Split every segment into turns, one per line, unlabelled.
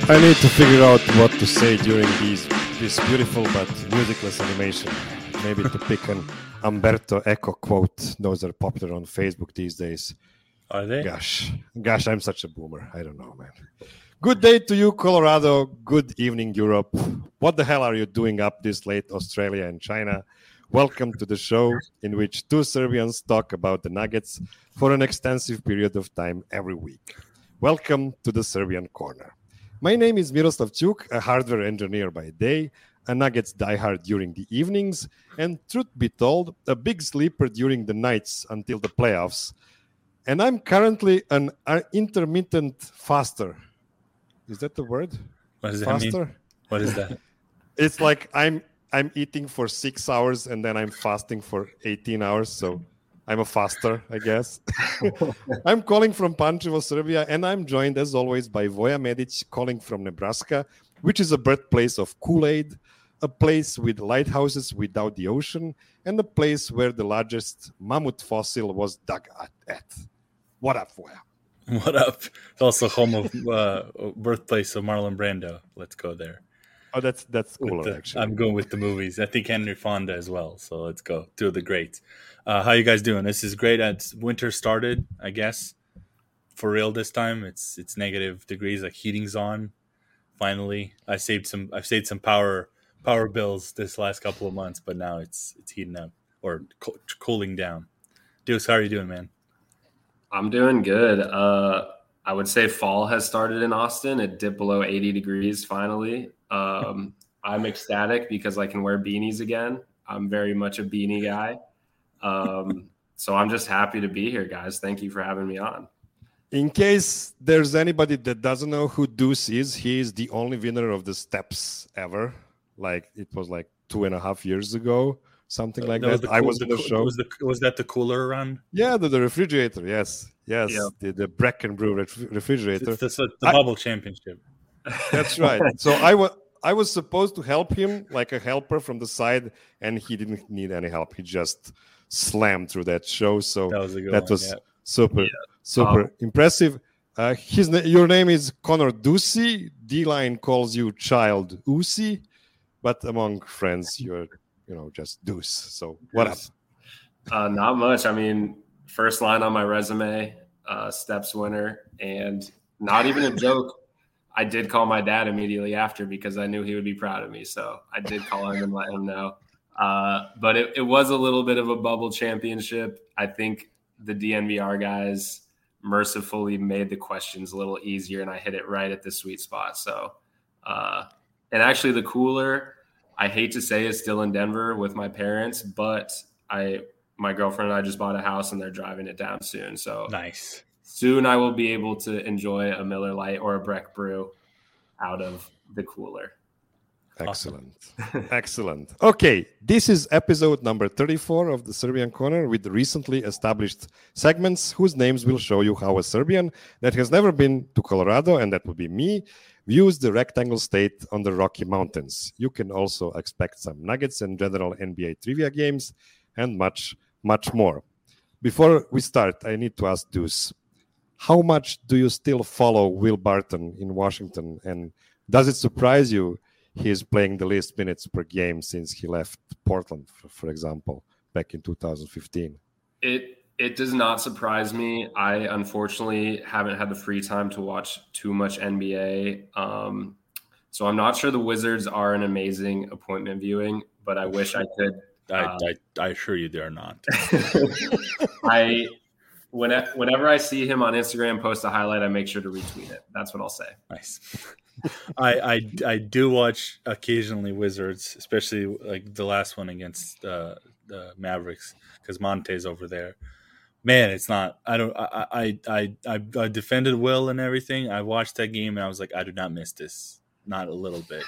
I need to figure out what to say during this beautiful but musicless animation. Maybe to pick an Umberto Eco quote. Those are popular on Facebook these days.
Are they?
Gosh, I'm such a boomer. I don't know, man. Good day to you, Colorado. Good evening, Europe. What the hell are you doing up this late, Australia and China? Welcome to the show in which two Serbians talk about the Nuggets for an extensive period of time every week. Welcome to the Serbian Corner. My name is Miroslav Ćuk, a hardware engineer by day, a Nuggets diehard during the evenings, and truth be told, a big sleeper during the nights until the playoffs. And I'm currently an intermittent faster. Is that the word?
What does that mean? What is that?
It's like I'm eating for 6 hours and then I'm fasting for 18 hours. So I'm a faster, I guess. I'm calling from Pančevo, Serbia, and I'm joined as always by Voja Medić, calling from Nebraska, which is a birthplace of Kool-Aid, a place with lighthouses without the ocean, and a place where the largest mammoth fossil was dug at. What up, Voja?
What up? It's also home of birthplace of Marlon Brando. Let's go there.
Oh, that's cooler, actually.
I'm going with the movies. I think Henry Fonda as well. So let's go. Two of the greats. How you guys doing? This is great. Winter started, I guess, for real this time. It's negative degrees, like heating's on. Finally, I've saved some power bills this last couple of months, but now it's heating up or cooling down. Deuce, how are you doing, man?
I'm doing good. I would say fall has started in Austin. It dipped below 80 degrees finally. I'm ecstatic because I can wear beanies again. I'm very much a beanie guy. So I'm just happy to be here, guys. Thank you for having me on.
In case there's anybody that doesn't know who Deuce is, he is the only winner of the Steps ever. Like it was like 2.5 years ago, something like that. I was in the show.
Was that the cooler run?
Yeah, the refrigerator. Yes. Yeah. The Brecken Brew refrigerator.
It's the bubble championship.
That's right. So I was supposed to help him like a helper from the side, and he didn't need any help. He just slammed through that show. So that was super impressive. Your name is Connor Ducey. D-Line calls you Child Usi, but among friends you're just Deuce. So what up?
Not much. I mean, first line on my resume, Steps winner, and not even a joke. I did call my dad immediately after because I knew he would be proud of me. So I did call him and let him know. But it was a little bit of a bubble championship. I think the DNVR guys mercifully made the questions a little easier, and I hit it right at the sweet spot. So, and actually the cooler, I hate to say, is still in Denver with my parents, but my girlfriend and I just bought a house and they're driving it down soon. So
nice.
Soon I will be able to enjoy a Miller Lite or a Breck Brew out of the cooler.
Excellent. Awesome. Excellent. Okay, this is episode number 34 of the Serbian Corner with recently established segments whose names will show you how a Serbian that has never been to Colorado, and that would be me, views the rectangle state on the Rocky Mountains. You can also expect some Nuggets and general NBA trivia games and much, much more. Before we start, I need to ask Deuce, how much do you still follow Will Barton in Washington? And does it surprise you he's playing the least minutes per game since he left Portland, for example, back in 2015?
It does not surprise me. I unfortunately haven't had the free time to watch too much NBA. So I'm not sure the Wizards are an amazing appointment viewing, but I wish I could.
I assure you they're not.
Whenever I see him on Instagram post a highlight, I make sure to retweet it. That's what I'll say.
Nice. I do watch occasionally Wizards, especially like the last one against the Mavericks because Monte's over there. Man, it's not. I defended Will and everything. I watched that game and I was like, I do not miss this, not a little bit.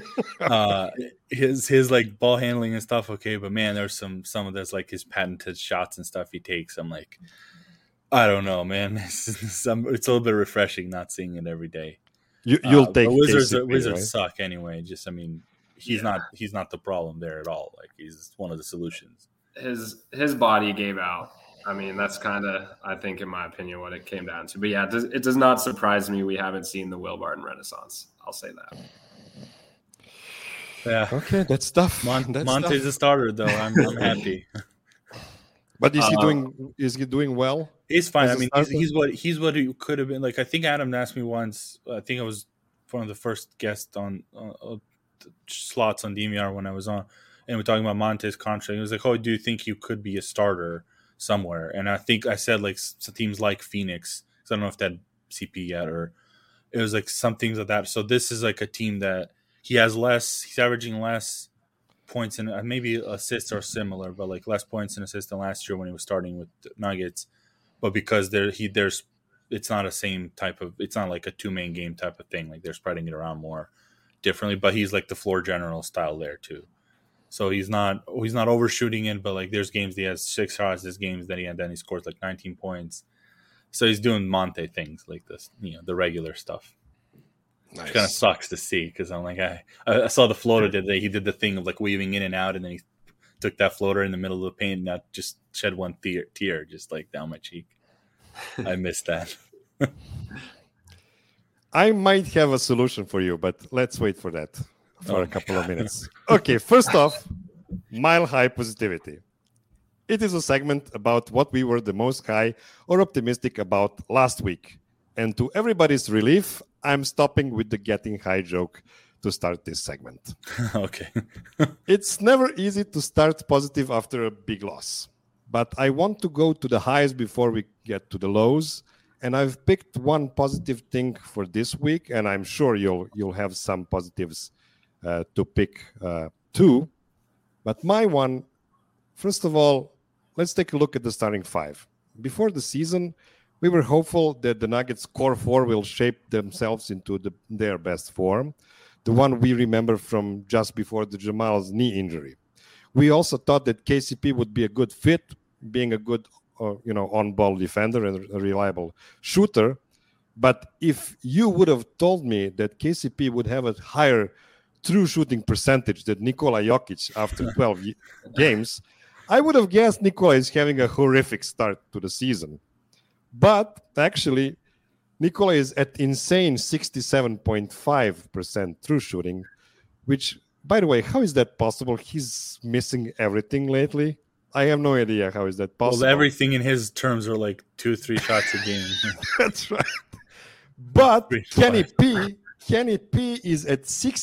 His like ball handling and stuff, okay, but man, there's some of that's like his patented shots and stuff he takes. I'm like, I don't know, man. It's a little bit refreshing not seeing it every day.
You'll take
Wizards.
KCP,
Wizards
right?
suck anyway. Just, I mean, he's not the problem there at all. Like he's one of the solutions.
His body gave out. I mean, that's kind of, I think, in my opinion, what it came down to. But yeah, it does not surprise me we haven't seen the Will Barton renaissance. I'll say that.
Yeah.
Okay, that's tough.
Monte's a starter, though. I'm happy.
But is he doing? Is he doing well?
He's fine. I mean, he's what he could have been. Like, I think Adam asked me once. I think I was one of the first guests on slots on DMR when I was on, and we're talking about Monte's contract. He was like, "Oh, do you think you could be a starter somewhere?" And I think I said like some teams like Phoenix. So I don't know if that CP yet, or it was like some things like that. So this is like a team that he has less. He's averaging less points and maybe assists are similar, but like less points and assists than last year when he was starting with the Nuggets. But because it's not a same type of. It's not like a 2-man game type of thing. Like they're spreading it around more differently. But he's like the floor general style there too. So he's not overshooting it, but like there's games he has 6 shots, there's games that he scores like 19 points. So he's doing Monte things like this, the regular stuff. Nice. Which kind of sucks to see because I'm like, I saw the floater today. He did the thing of like weaving in and out, and then he took that floater in the middle of the paint and that just shed one tear just like down my cheek. I missed that.
I might have a solution for you, but let's wait for that for a couple of minutes. Okay, first off, Mile High Positivity. It is a segment about what we were the most high or optimistic about last week. And to everybody's relief, I'm stopping with the getting high joke to start this segment.
Okay.
It's never easy to start positive after a big loss. But I want to go to the highs before we get to the lows. And I've picked one positive thing for this week, and I'm sure you'll have some positives to pick too. But my one, first of all, let's take a look at the starting 5. Before the season, we were hopeful that the Nuggets core 4 will shape themselves into their best form, the one we remember from just before the Jamal's knee injury. We also thought that KCP would be a good fit, being a good on-ball defender and a reliable shooter. But if you would have told me that KCP would have a higher true shooting percentage than Nikola Jokic after 12 games, I would have guessed Nikola is having a horrific start to the season. But actually, Nikola is at insane 67.5% true shooting, which, by the way, how is that possible? He's missing everything lately. I have no idea how is that possible.
Well, everything in his terms are like 2-3 shots a game.
That's right. But Kenny P is at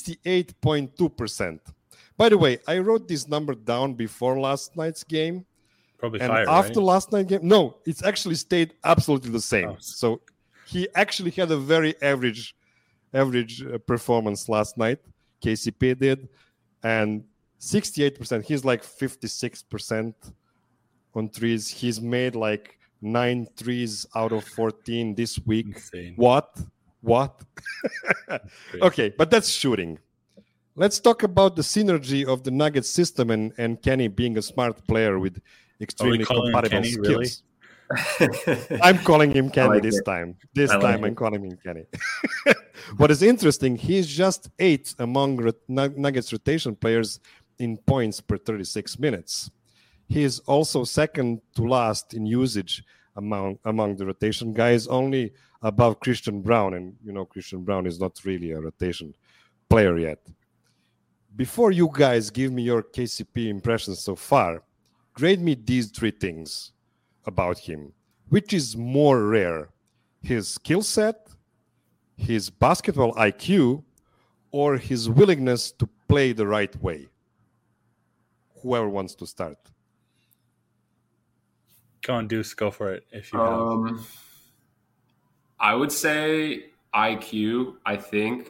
68.2%. By the way, I wrote this number down before last night's game.
Probably
and
higher,
after
right?
last night's game, no, it's actually stayed absolutely the same.
Oh.
So he actually had a very average performance last night. KCP did, and 68%. He's like 56% on threes. He's made like 9 threes out of 14 this week.
Insane.
What? Okay, but that's shooting. Let's talk about the synergy of the Nuggets system and Kenny being a smart player with extremely compatible
Kenny,
skills.
Really?
I'm calling him Kenny
like
this
it.
time. I'm calling him Kenny. What is interesting, he's just 8th among Nuggets rotation players in points per 36 minutes. He is also second to last in usage among the rotation guys, only above Christian Brown. And, Christian Brown is not really a rotation player yet. Before you guys give me your KCP impressions so far, grade me these 3 things about him. Which is more rare, his skill set, his basketball IQ, or his willingness to play the right way? Whoever wants to start.
Go on, Deuce, go for it if you have.
I would say IQ, I think.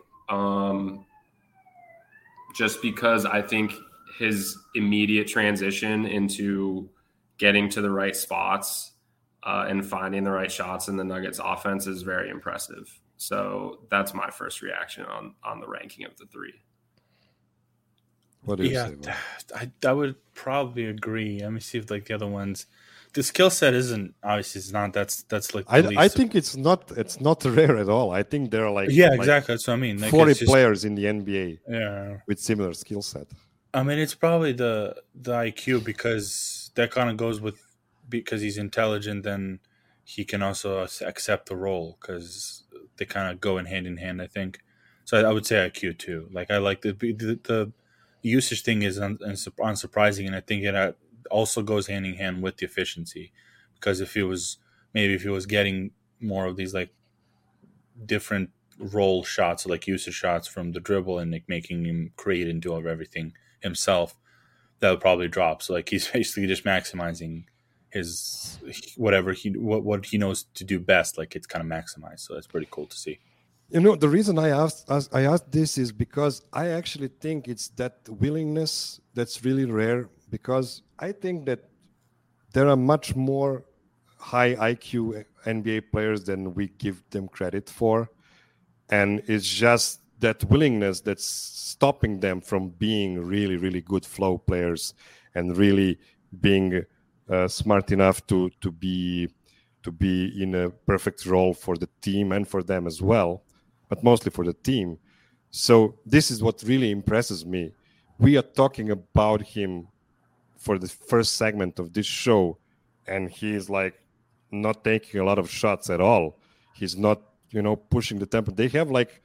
Just because I think his immediate transition into getting to the right spots and finding the right shots in the Nuggets offense is very impressive. So that's my first reaction on the ranking of the 3.
What do you say?
I would probably agree. Let me see if like the other ones. The skill set isn't obviously it's not. That's like
I think it's not rare at all. I think there are
exactly. That's what I mean. Like
40 players in the NBA with similar skill set.
I mean, it's probably the IQ because that kind of goes with because he's intelligent, then he can also accept the role because they kind of go in hand, I think. So I would say IQ too. Like I like the usage thing is unsurprising, and I think it also goes hand in hand with the efficiency, because if he was getting more of these like different role shots, like usage shots from the dribble, and like making him create and do everything himself, that would probably drop. So like he's basically just maximizing his whatever what he knows to do best. Like it's kind of maximized. So that's pretty cool to see.
You know, the reason I asked this is because I actually think it's that willingness that's really rare, because I think that there are much more high IQ NBA players than we give them credit for. And it's just that willingness that's stopping them from being really, really good flow players and really being smart enough to be in a perfect role for the team and for them as well, but mostly for the team. So this is what really impresses me. We are talking about him for the first segment of this show, and he is like not taking a lot of shots at all. He's not, pushing the tempo. They have like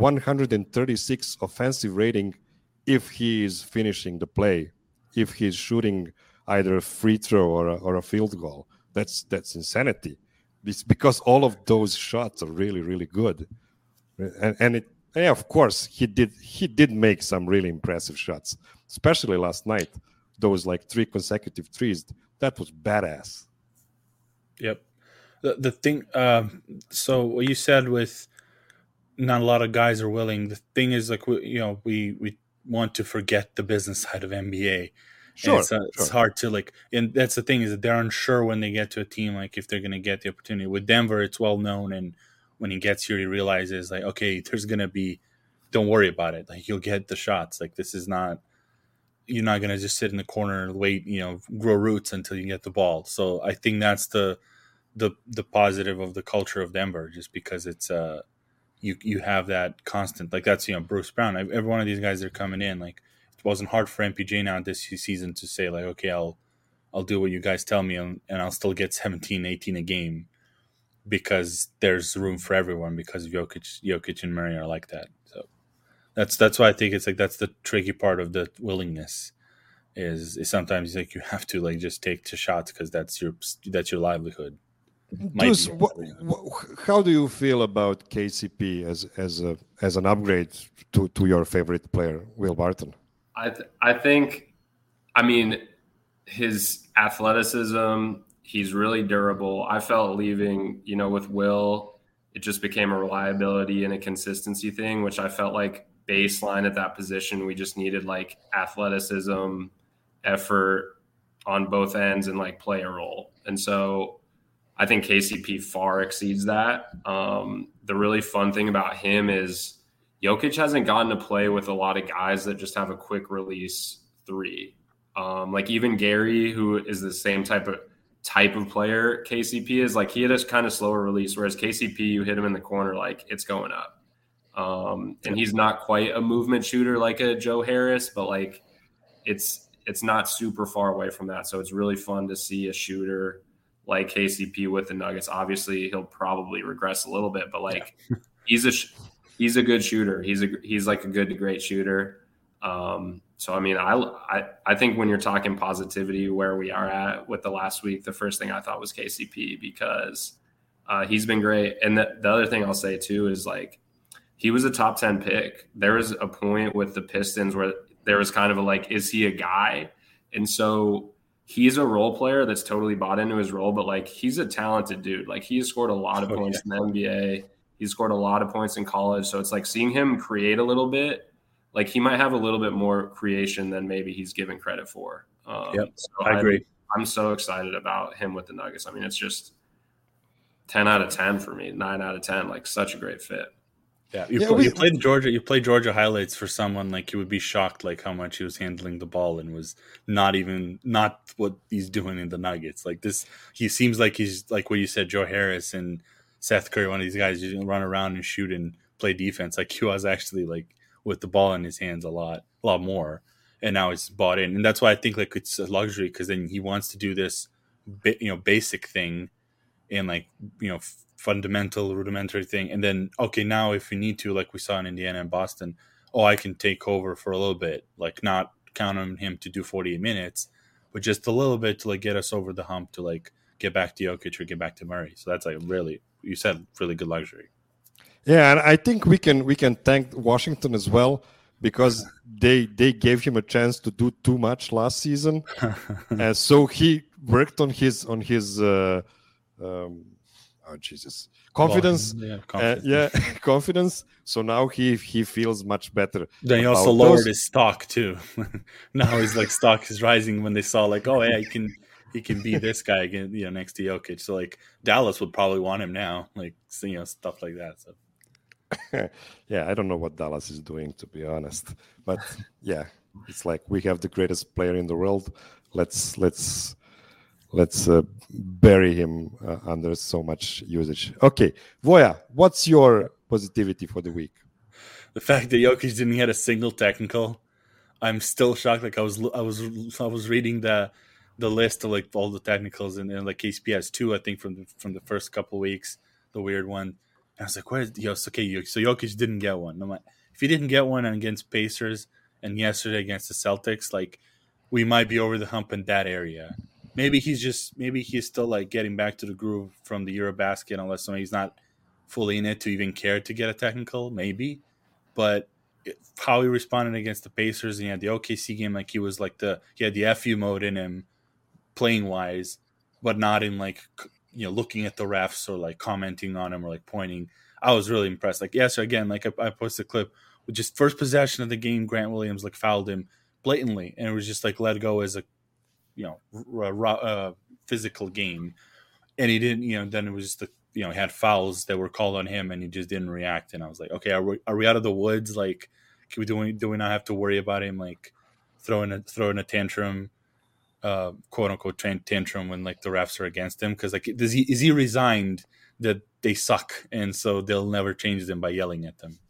136 offensive rating if he is finishing the play, if he's shooting either a free throw or a field goal. That's insanity. It's because all of those shots are really, really good. And of course, he did make some really impressive shots, especially last night. Those like 3 consecutive threes, that was badass.
Yep. The thing, so what you said with not a lot of guys are willing. The thing is, like, we want to forget the business side of NBA.
Sure,
it's hard to like, and that's the thing, is that they're unsure when they get to a team, like if they're going to get the opportunity. With Denver, it's well known, and when he gets here, he realizes like, okay, there's going to be, don't worry about it. Like you'll get the shots. Like this is not, you're not going to just sit in the corner and wait, grow roots until you get the ball. So I think that's the positive of the culture of Denver, just because it's you have that constant, like that's Bruce Brown. Every one of these guys that are coming in, like it wasn't hard for MPJ now this season to say like, okay, I'll do what you guys tell me, and I'll still get 17, 18 a game, because there's room for everyone, because Jokic and Murray are like that. So that's why I think it's like that's the tricky part of the willingness is sometimes like you have to like just take the shots because that's your livelihood.
Deuce, how do you feel about KCP as an upgrade to your favorite player, Will Barton?
I think, his athleticism, he's really durable. I felt leaving, with Will, it just became a reliability and a consistency thing, which I felt like baseline at that position, we just needed like athleticism, effort on both ends, and like play a role. And so I think KCP far exceeds that. The really fun thing about him is Jokic hasn't gotten to play with a lot of guys that just have a quick release three. Like even Gary, who is the same type of player KCP is, like he had a kind of slower release, whereas KCP, you hit him in the corner, like it's going up. And he's not quite a movement shooter like a Joe Harris, but like it's not super far away from that. So it's really fun to see a shooter like KCP with the Nuggets. Obviously, he'll probably regress a little bit, but like he's a good shooter. He's like a good to great shooter. So I think when you're talking positivity, where we are at with the last week, the first thing I thought was KCP, because he's been great. And the other thing I'll say too is like he was a top 10 pick. There was a point with the Pistons where there was kind of a like, is he a guy? And so he's a role player that's totally bought into his role, but like he's a talented dude. Like he has scored a lot of points in the NBA. He's scored a lot of points in college. So it's like seeing him create a little bit, like he might have a little bit more creation than maybe he's given credit for.
So
I agree. I'm so excited about him with the Nuggets. I mean, it's just 10 out of 10 for me, 9 out of 10, like such a great fit.
Yeah, you played Georgia highlights for someone, like you would be shocked like how much he was handling the ball and was not what he's doing in the Nuggets. Like this, he seems like he's like what you said, Joe Harris and Seth Curry, one of these guys who run around and shoot and play defense. Like he was actually like with the ball in his hands a lot more, and now it's bought in, and that's why I think like it's a luxury, because then he wants to do this basic thing and like, fundamental, rudimentary thing. And then, okay, now if we need to, like we saw in Indiana and Boston, I can take over for a little bit, like not count on him to do 48 minutes, but just a little bit to like get us over the hump to like get back to Jokic or get back to Murray. So that's like really, you said, really good luxury.
Yeah, and I think we can thank Washington as well, because they gave him a chance to do too much last season, and so he worked on his confidence. Confidence. So now he feels much better.
Then he also lowered his stock too. Now his like stock is rising when they saw like, oh yeah, he can be this guy again, next to Jokic. So like Dallas would probably want him now, like stuff like that. So.
Yeah, I don't know what Dallas is doing, to be honest, but yeah, it's like we have the greatest player in the world. Let's bury him under so much usage. Okay, Voya, what's your positivity for the week?
The fact that Jokic didn't get a single technical, I'm still shocked. Like I was reading the list of like all the technicals and like KCP has 2, I think, from the first couple of weeks, the weird one. And I was like, okay, so Jokic didn't get one. I'm like, if he didn't get one against Pacers and yesterday against the Celtics, like we might be over the hump in that area. Maybe he's still like getting back to the groove from the Eurobasket, unless he's not fully in it to even care to get a technical, maybe. But how he responded against the Pacers, and he had the OKC game, like he had the FU mode in him, playing wise, but not in like looking at the refs or like commenting on him or like pointing. I was really impressed. Like again, like I posted a clip with just first possession of the game, Grant Williams like fouled him blatantly, and it was just like let go as a physical game, and he didn't. Then it was just he had fouls that were called on him, and he just didn't react. And I was like, okay, are we out of the woods? Like, do we not have to worry about him like throwing a tantrum, quote unquote tantrum when like the refs are against him? Because like, is he resigned that they suck, and so they'll never change them by yelling at them?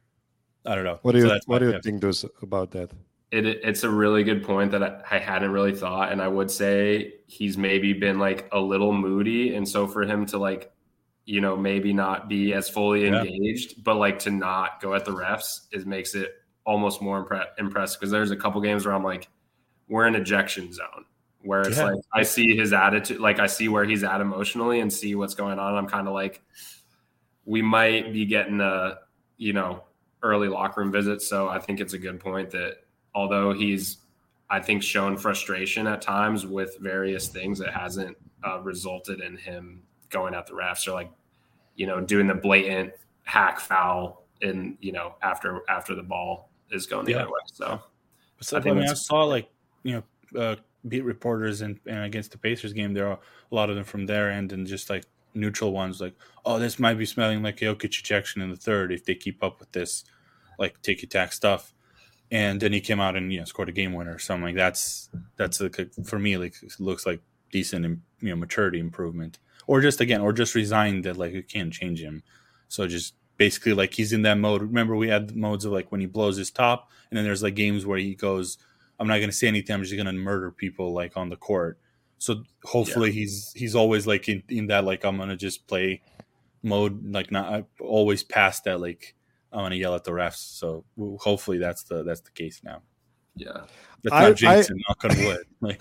I don't know.
What do you think about that?
It's a really good point that I hadn't really thought, and I would say he's maybe been like a little moody, and so for him to like, maybe not be as fully engaged, but like to not go at the refs makes it almost more impressive, because there's a couple games where I'm like, we're in ejection zone, where it's like I see his attitude, like I see where he's at emotionally and see what's going on. I'm kind of like, we might be getting a early locker room visit. So I think it's a good point that although he's, I think, shown frustration at times with various things, it hasn't resulted in him going at the refs or like, doing the blatant hack foul in, after the ball is going the other way. So
I saw like, beat reporters and against the Pacers game, there are a lot of them from their end and just like neutral ones like, oh, this might be smelling like Jokic ejection in the third if they keep up with this like ticky-tack stuff. And then he came out and scored a game winner or something. Like that's for me, like it looks like decent maturity improvement, or just resigned that like you can't change him. So just basically like he's in that mode. Remember we had modes of like when he blows his top, and then there's like games where he goes, I'm not going to say anything, I'm just going to murder people like on the court. So hopefully he's always like in that like I'm going to just play mode, like not always past that like I'm going to yell at the refs. So hopefully that's the case now.
Yeah.
That's not jinxing, knock on wood. Like,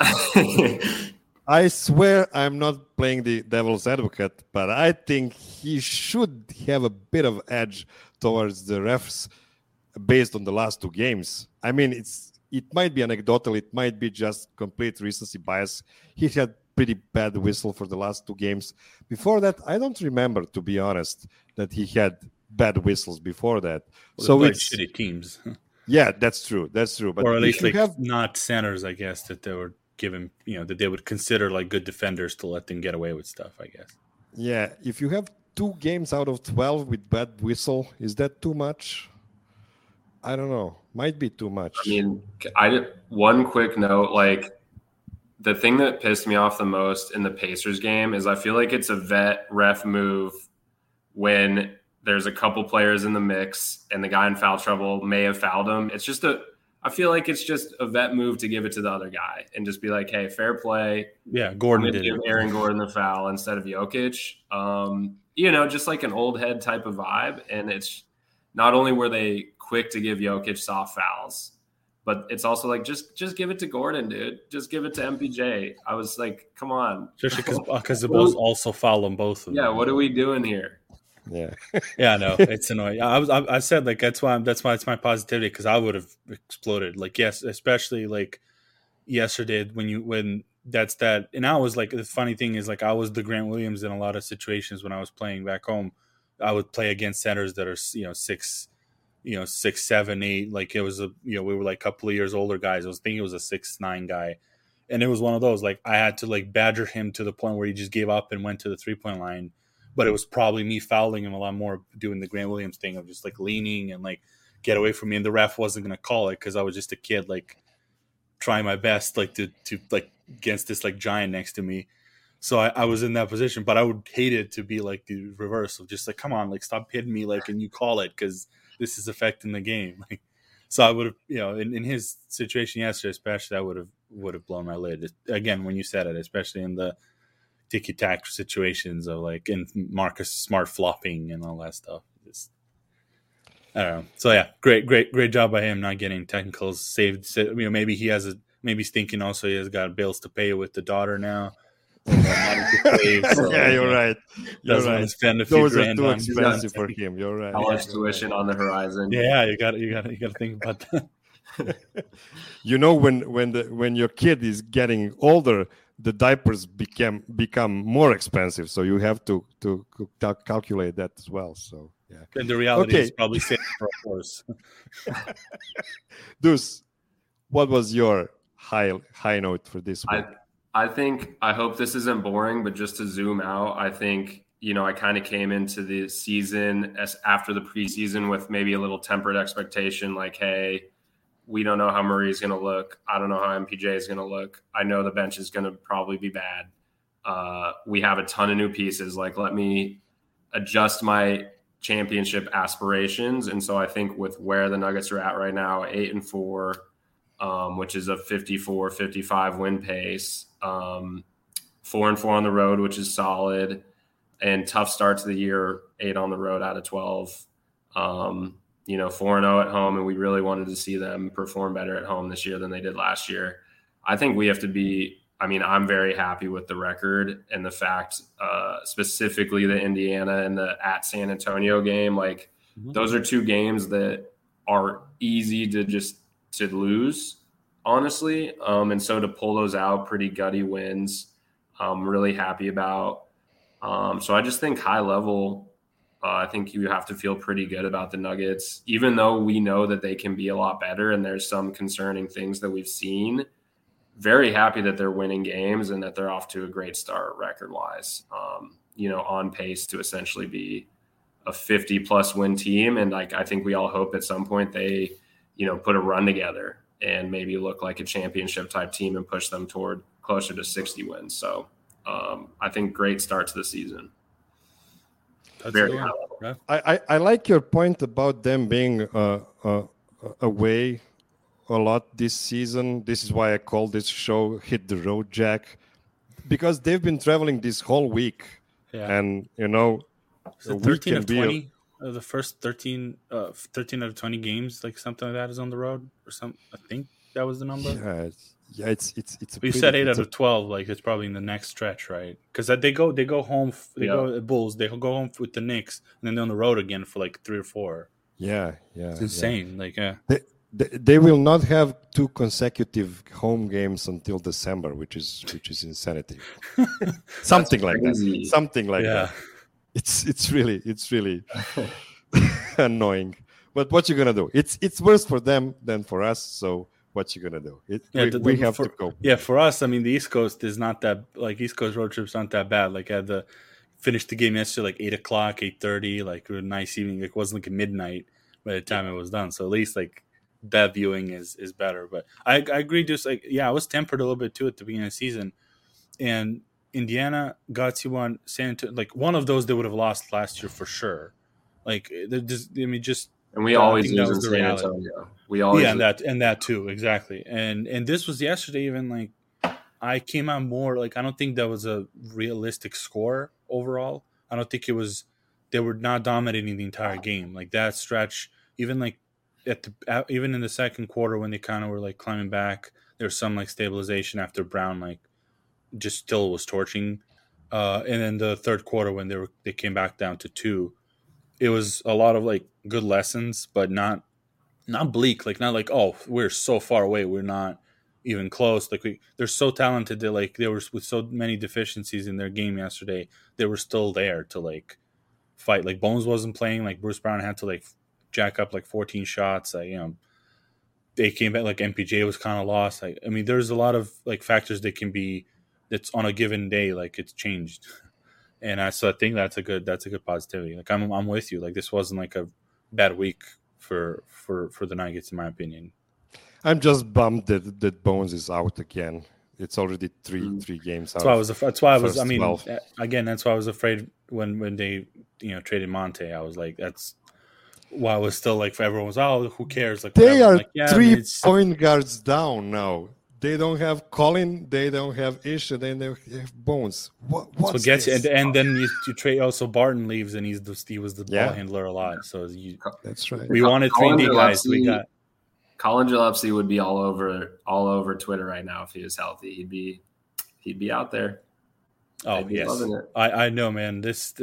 I swear I'm not playing the devil's advocate, but I think he should have a bit of edge towards the refs based on the last 2 games. I mean, it might be anecdotal, it might be just complete recency bias. He had pretty bad whistle for the last 2 games. Before that, I don't remember, to be honest, that he had bad whistles before that.
Well,
so
it's shitty teams.
Yeah, that's true. But
or at least like not centers, I guess, that they were given, that they would consider like good defenders to let them get away with stuff, I guess.
Yeah, if you have 2 games out of 12 with bad whistle, is that too much? I don't know. Might be too much.
I mean, one quick note, like the thing that pissed me off the most in the Pacers game is I feel like it's a vet ref move when there's a couple players in the mix and the guy in foul trouble may have fouled him. It's just I feel like it's just a vet move to give it to the other guy and just be like, hey, fair play.
Yeah, Gordon did
give Aaron Gordon the foul instead of Jokic. Just like an old head type of vibe. And it's not only were they quick to give Jokic soft fouls, but it's also like, just give it to Gordon, dude. Just give it to MPJ. I was like, come on.
Especially because the Bulls also foul on both of them.
Yeah, what are we doing here?
Yeah.
Yeah, no, it's annoying. I said like that's why it's my positivity, because I would have exploded. Like, yes, especially like yesterday when that's that. And I was like, the funny thing is, like, I was the Grant Williams in a lot of situations when I was playing back home. I would play against centers that are 6, 6, 7, 8. Like, it was we were like a couple of years older guys. I was thinking it was a 6'9" guy, and it was one of those, like, I had to like badger him to the point where he just gave up and went to the 3-point line. But it was probably me fouling him a lot more, doing the Grant Williams thing of just like leaning and like get away from me. And the ref wasn't going to call it because I was just a kid, like trying my best, like to like against this like giant next to me. So I was in that position, but I would hate it to be like the reverse of just like, come on, like stop hitting me, like, and you call it because this is affecting the game. Like, so I would have, in his situation yesterday, especially, I would have blown my lid again when you said it, especially in the ticky-tack situations of like in Marcus Smart flopping and all that stuff. Just, I don't know. So yeah, great job by him not getting technicals saved. Maybe he's thinking also he has got bills to pay with the daughter now.
Yeah, you're right.
Doesn't want to spend a few grand
too
on
expensive for him. You're right.
College tuition on the horizon.
Yeah, you got to think about that.
When your kid is getting older, the diapers become more expensive, so you have to calculate that as well. So yeah,
and the reality is probably safer, of course.
Deuce, what was your high note for this week?
I hope this isn't boring, but just to zoom out, I think I kind of came into the season after the preseason with maybe a little tempered expectation, like, hey, we don't know how Murray's going to look. I don't know how MPJ is going to look. I know the bench is going to probably be bad. We have a ton of new pieces. Like, let me adjust my championship aspirations. And so I think with where the Nuggets are at right now, 8-4, which is a 54-55 win pace, 4-4 on the road, which is solid, and tough start to the year, 8 on the road out of 12. 4-0 at home, and we really wanted to see them perform better at home this year than they did last year. I think we have to be – I'm very happy with the record and the fact specifically the Indiana and the at San Antonio game. Like, those are two games that are easy to lose, honestly. And so to pull those out, pretty gutty wins, I'm really happy about. So I just think high level – I think you have to feel pretty good about the Nuggets, even though we know that they can be a lot better and there's some concerning things that we've seen. Very happy that they're winning games and that they're off to a great start record-wise, on pace to essentially be a 50-plus win team. And I think we all hope at some point they, put a run together and maybe look like a championship-type team and push them toward closer to 60 wins. So I think great start to the season. Very high level.
I like your point about them being away a lot this season. This is why I call this show "Hit the Road, Jack," because they've been traveling this whole week, and
13 of 20 of the first 13 out of 20 games, like something like that, is on the road or something. I think that was the number.
Yeah, it's.
You said 8 out of 12. Like, it's probably in the next stretch, right? Because they go home. They go the Bulls. They go home with the Knicks, and then they're on the road again for like 3 or 4.
Yeah.
It's insane. Like,
They will not have 2 consecutive home games until December, which is insanity. Something like that. Something like that. It's really annoying. But what you gonna do? It's worse for them than for us. So what you gonna do? We have to go.
Yeah, for us, the East Coast is not that, like, East Coast road trips aren't that bad. Like, I had to finish the game yesterday like 8:00, 8:30. Like, a nice evening. Like, it wasn't like a midnight by the time it was done. So at least like that viewing is better. But I agree. Just like, I was tempered a little bit too at the beginning of the season, and Indiana got you on San Antonio. Like, one of those they would have lost last year for sure. Like, just
And we always lose in San Antonio. We always
and that too, exactly. And this was yesterday. Even like I came out more like I don't think that was a realistic score overall. I don't think it was. They were not dominating the entire game. Like that stretch, even like even in the second quarter when they kind of were like climbing back, there was some like stabilization after Brown like just still was torching. And then the third quarter when they came back down to 2, it was a lot of like good lessons, but not bleak. Like not like, oh, we're so far away, we're not even close. Like they're so talented that like they were with so many deficiencies in their game yesterday, they were still there to like fight. Like Bones wasn't playing. Like Bruce Brown had to like jack up like 14 shots. Like, you know, they came back. Like MPJ was kind of lost. Like, I mean, there's a lot of like factors that can be that's on a given day. Like it's changed, and so I think that's a good positivity. Like I'm with you. Like this wasn't like a bad week for the Nuggets in my opinion.
I'm just bummed that Bones is out again. It's already three games out.
That's why I was. I mean, 12. Again, that's why I was afraid when they traded Monte. I was like, that's why I was still like, for everyone was, oh, who cares? Like
they are
like, yeah,
3 point guards down now. They don't have Colin. They don't have Isha. They don't have Bones. What's
so gets
this?
And then you trade. Also, Barton leaves, and he was the ball handler a lot. So
that's right.
We wanted 3D guys. We got.
Colin Gillespie would be all over Twitter right now if he was healthy. He'd be out there.
Oh yes, I know, man.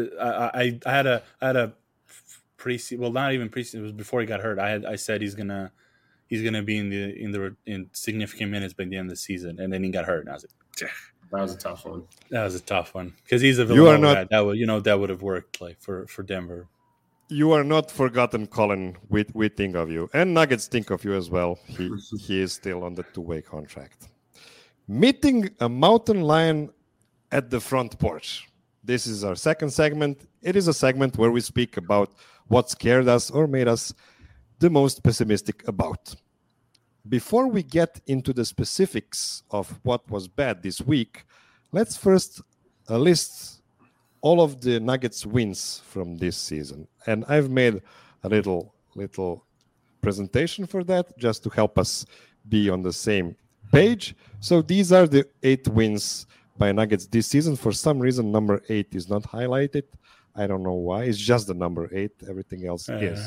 I had a preseason. Well, not even preseason. It was before he got hurt. I said he's gonna be in significant minutes by the end of the season, and then he got hurt, and I was like,
that was a tough one.
That was a tough one because he's a Villanova guy. That would have worked like for Denver.
You are not forgotten, Colin. We think of you. And Nuggets think of you as well. He is still on the 2-way contract. Meeting a mountain lion at the front porch. This is our second segment. It is a segment where we speak about what scared us or made us the most pessimistic about. Before we get into the specifics of what was bad this week, let's first list all of the Nuggets wins from this season. And I've made a little presentation for that just to help us be on the same page. So these are the 8 wins by Nuggets this season. For some reason, number 8 is not highlighted. I don't know why. It's just the number 8. Everything else is.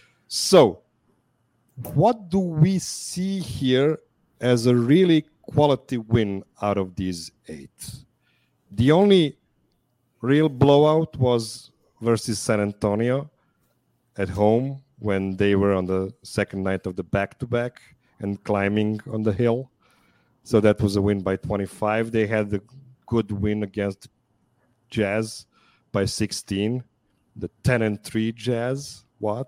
So what do we see here as a really quality win out of these 8? The only real blowout was versus San Antonio at home when they were on the second night of the back-to-back and climbing on the hill. So that was a win by 25. They had the good win against Jazz by 16. The 10-3 Jazz. What?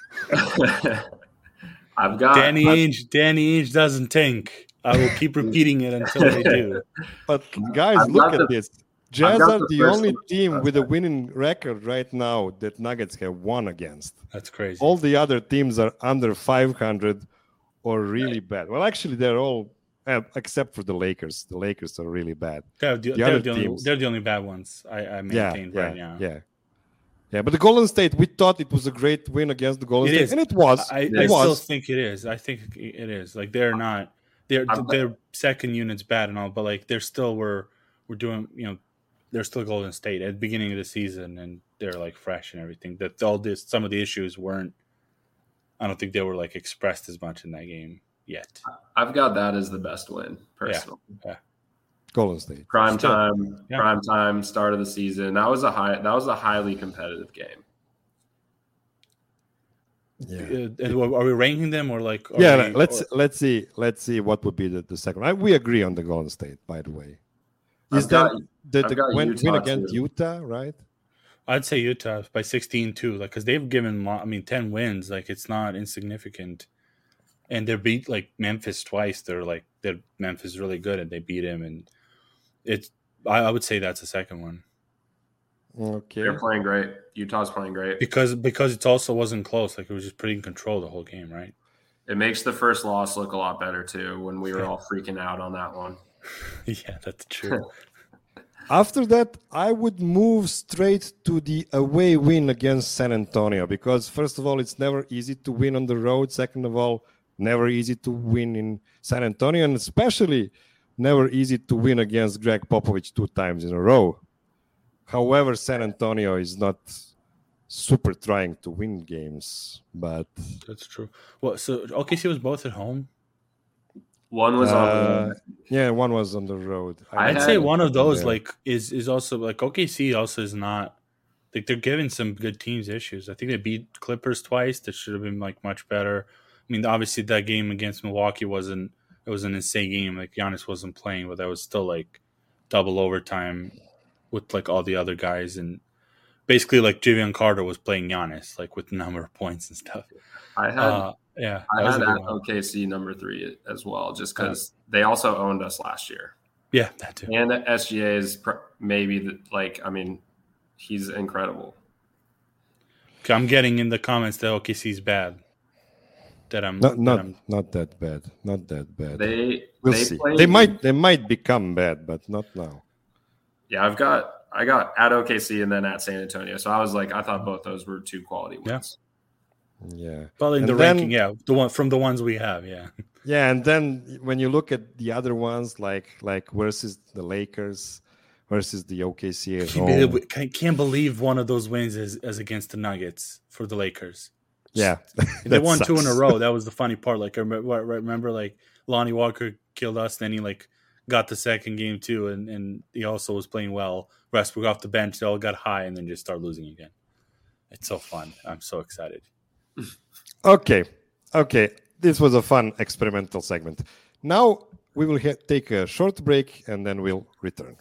I've got
Danny Ainge doesn't think. I will keep repeating it until they do.
But guys, look at this. Jazz are the only team with a winning record right now that Nuggets have won against.
That's crazy.
All the other teams are under 500 or really bad. Well, actually, they're all, except for the Lakers. The Lakers are really bad.
They're the only bad ones I maintain right now.
Yeah, but the Golden State, we thought it was a great win against the Golden State, and it was.
I still think it is. I think it is. Like they're not. Their second unit's bad and all, but like they're still we're doing. They're still Golden State at the beginning of the season, and they're like fresh and everything. That some of the issues weren't. I don't think they were like expressed as much in that game yet.
I've got that as the best win personally.
Yeah.
Golden State
prime time start of the season. That was a highly competitive game.
Yeah. Are we ranking them or like?
Let's see what would be the second. We agree on the Golden State, by the way. Is that the win against Utah, right?
I'd say Utah by 16 too, like because they've given 10 wins, like it's not insignificant, and they beat like Memphis twice. Memphis is really good, and they beat him, and I would say that's the second one.
Okay,
they're playing great. Utah's playing great
because it also wasn't close. Like it was just pretty in control the whole game, right?
It makes the first loss look a lot better too when we were all freaking out on that one.
Yeah, that's true.
After that, I would move straight to the away win against San Antonio because, first of all, it's never easy to win on the road. Second of all, never easy to win in San Antonio, and especially never easy to win against Greg Popovich 2 times in a row. However, San Antonio is not super trying to win games, but
That's true. Well, so OKC was both at home.
One was on the road.
Yeah, one was on the road.
I'd say one of those is also like OKC also is not like they're giving some good teams issues. I think they beat Clippers twice. That should have been like much better. I mean, obviously that game against Milwaukee was an insane game. Like Giannis wasn't playing, but that was still like double overtime with like all the other guys, and basically like Javion Carter was playing Giannis like with the number of points and stuff.
I had OKC number 3 as well, just because they also owned us last year.
Yeah, that too.
And SGA is he's incredible.
I'm getting in the comments that OKC is bad.
Not that bad. Not that bad. We'll see. They might become bad, but not now.
Yeah, I got at OKC and then at San Antonio. So I was like, I thought both those were 2 quality wins.
Yeah.
Well, in the ranking, the one from the ones we have, yeah.
Yeah, and then when you look at the other ones, like versus the Lakers, versus the OKC at home.
I can't believe one of those wins is against the Nuggets for the Lakers.
Yeah,
they won sucks. 2 in a row. That was the funny part. Like I remember like Lonnie Walker killed us, then he like got the second game too, and he also was playing well. Westbrook off the bench, they all got high and then just start losing again. It's so fun. I'm so excited.
Okay. This was a fun experimental segment. Now we will take a short break and then we'll return.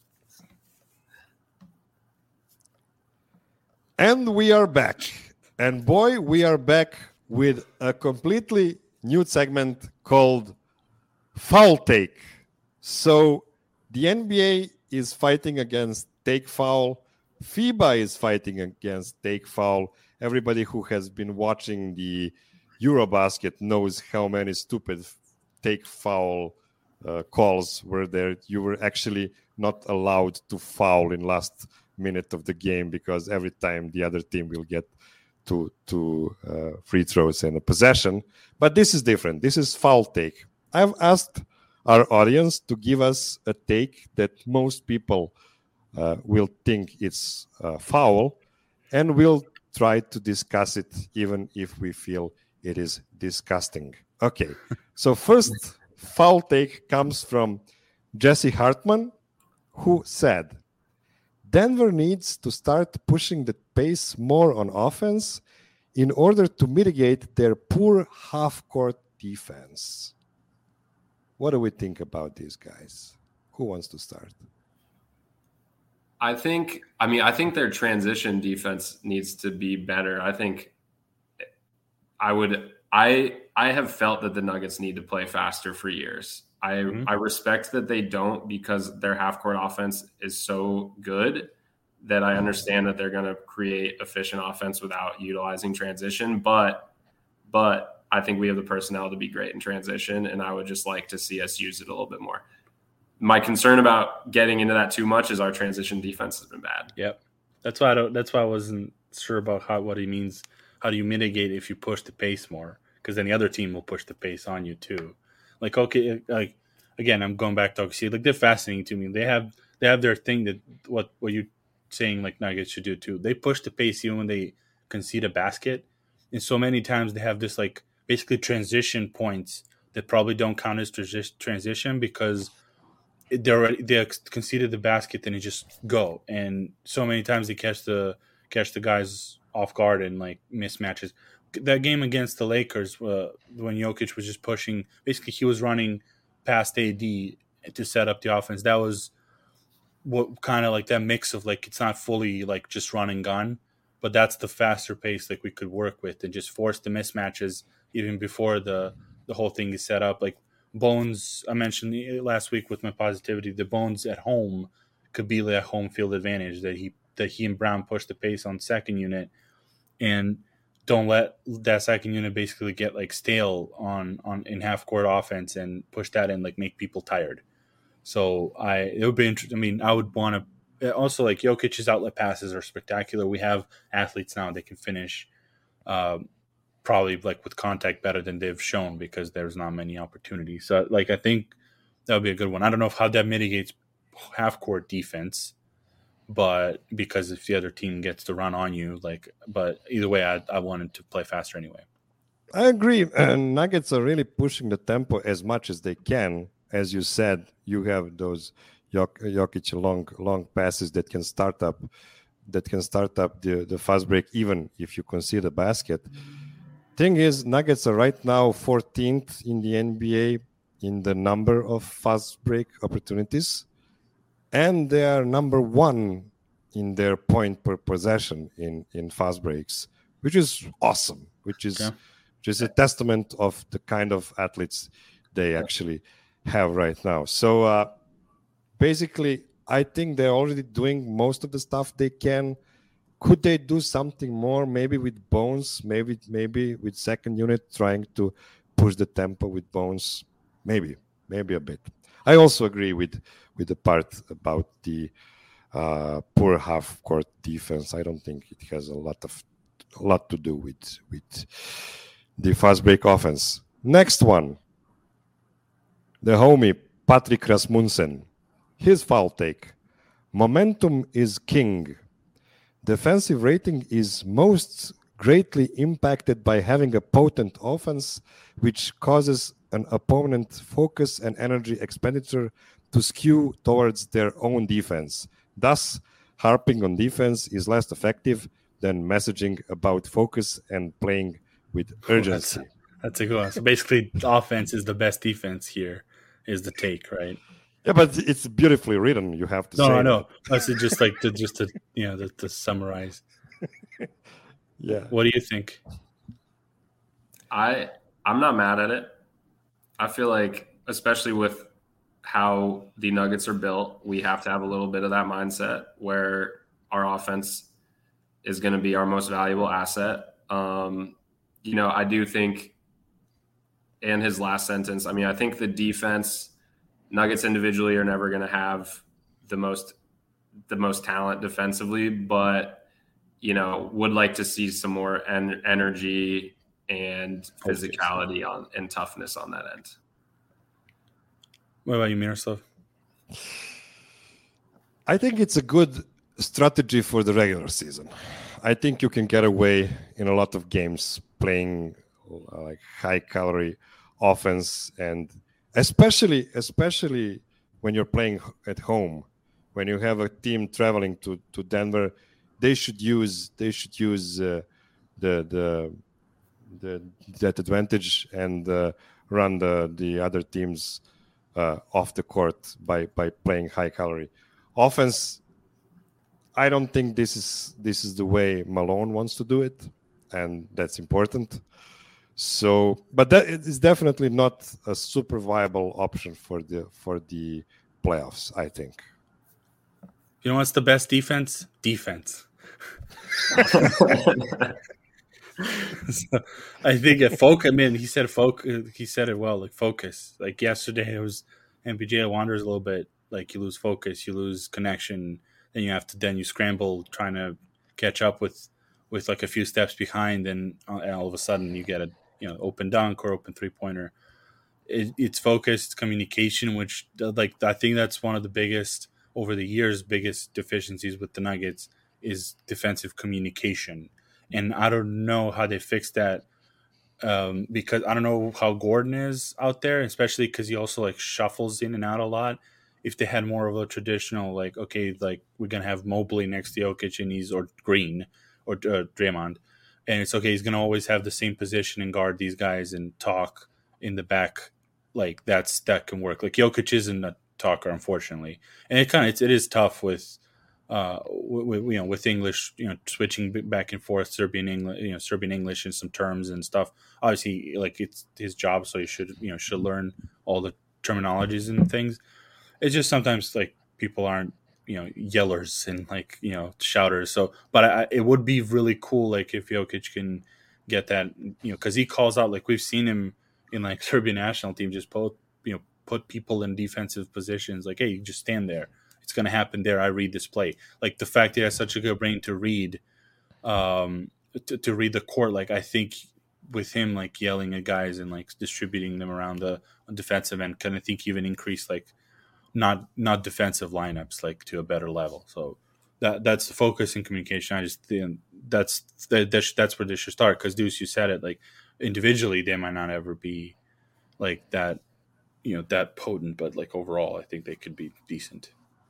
And we are back. And boy, we are back with a completely new segment called Foul Take. So the NBA is fighting against take foul. FIBA is fighting against take foul. Everybody who has been watching the Eurobasket knows how many stupid take foul calls were there. You were actually not allowed to foul in last minute of the game because every time the other team will get to free throws and a possession. But this is different. This is foul take. I've asked our audience to give us a take that most people will think it's foul, and we'll try to discuss it even if we feel it is disgusting. Okay, so first foul take comes from Jesse Hartman, who said, Denver needs to start pushing the pace more on offense in order to mitigate their poor half-court defense. What do we think about these guys? Who wants to start?
I think their transition defense needs to be better. I have felt that the Nuggets need to play faster for years. I respect that they don't because their half-court offense is so good that I understand that they're going to create efficient offense without utilizing transition. But I think we have the personnel to be great in transition, and I would just like to see us use it a little bit more. My concern about getting into that too much is our transition defense has been bad.
Yep, that's why I wasn't sure about what he means. How do you mitigate if you push the pace more? Because then the other team will push the pace on you too. Like, okay, like again, I'm going back to OKC. Like, they're fascinating to me. They have their thing that what you saying like Nuggets should do too. They push the pace even when they concede a basket, and so many times they have this like basically transition points that probably don't count as transition because they conceded the basket, then you just go. And so many times they catch the guys off guard and like mismatches. That game against the Lakers, when Jokic was just pushing, basically he was running past AD to set up the offense. That was what kind of like that mix of like it's not fully like just run and gun, but that's the faster pace like we could work with and just force the mismatches even before the whole thing is set up. Like Bones, I mentioned last week with my positivity, the Bones at home could be like a home field advantage that he and Brown push the pace on second unit and don't let that second unit basically get like stale on in half court offense and push that in, like make people tired. So it would be interesting. I mean, I would want to also, like, Jokic's outlet passes are spectacular. We have athletes now that can finish probably like with contact better than they've shown because there's not many opportunities. So like I think that would be a good one. I don't know how that mitigates half court defense, but because if the other team gets to run on you, like, but either way, I wanted to play faster anyway.
I agree. Nuggets are really pushing the tempo as much as they can. As you said, you have those Jokic long passes that can start up the fast break, even if you concede a basket. Thing is, Nuggets are right now 14th in the NBA in the number of fast break opportunities, and they are number 1 in their point per possession in fast breaks, which is awesome. Which is a testament of the kind of athletes they actually have right now. So basically, I think they're already doing most of the stuff they can. Could they do something more? Maybe with Bones, maybe with second unit trying to push the tempo with Bones. Maybe a bit. I also agree with the part about the poor half court defense. I don't think it has a lot to do with the fast break offense. Next one, the homie Patrick Rasmussen. His foul take: momentum is king. Defensive rating is most greatly impacted by having a potent offense, which causes an opponent focus and energy expenditure to skew towards their own defense. Thus, harping on defense is less effective than messaging about focus and playing with urgency.
That's a good one. So basically, the offense is the best defense here, is the take, right?
Yeah, but it's beautifully written. You have to say.
No, I know. That's just like to summarize.
Yeah.
What do you think?
I'm not mad at it. I feel like, especially with how the Nuggets are built, we have to have a little bit of that mindset where our offense is going to be our most valuable asset. I do think, and his last sentence, I mean, I think the defense, Nuggets individually are never going to have the most talent defensively, but would like to see some more energy and physicality and toughness on that end.
What about you, Miroslav?
I think it's a good strategy for the regular season. I think you can get away in a lot of games playing like high calorie offense, and especially when you're playing at home, when you have a team traveling to Denver, they should use that advantage and run the other teams off the court by playing high calorie offense. I don't think this is the way Malone wants to do it, and that's important. So, but that is definitely not a super viable option for the playoffs, I think.
You know what's the best defense? Defense. So, I think I mean, he said it well, like focus. Like yesterday, it was MPJ wanders a little bit. Like you lose focus, you lose connection, then you scramble trying to catch up with like a few steps behind, and all of a sudden you get a open dunk or open 3-pointer. It's focus, it's communication, which like I think that's one of the biggest deficiencies with the Nuggets is defensive communication. And I don't know how they fix that because I don't know how Gordon is out there, especially because he also like shuffles in and out a lot. If they had more of a traditional, like, okay, like we're going to have Mobley next to Jokic and or Green or Draymond, and it's okay, he's going to always have the same position and guard these guys and talk in the back. Like that can work. Like Jokic isn't a talker, unfortunately. And it is tough with English, switching back and forth, Serbian English and some terms and stuff. Obviously, like it's his job, so he should learn all the terminologies and things. It's just sometimes like people aren't yellers and like shouters. So, but it would be really cool like if Jokic can get that, because he calls out, like we've seen him in like Serbian national team just put people in defensive positions. Like, hey, you just stand there. It's going to happen there. I read this play. Like the fact that he has such a good brain to read, to read the court. Like I think with him, like yelling at guys and like distributing them around the defensive end, kind of think even increase like not defensive lineups like to a better level. So that's the focus and communication. I just think that's where they should start. Because Deuce, you said it. Like individually, they might not ever be like that, that potent, but like overall, I think they could be decent.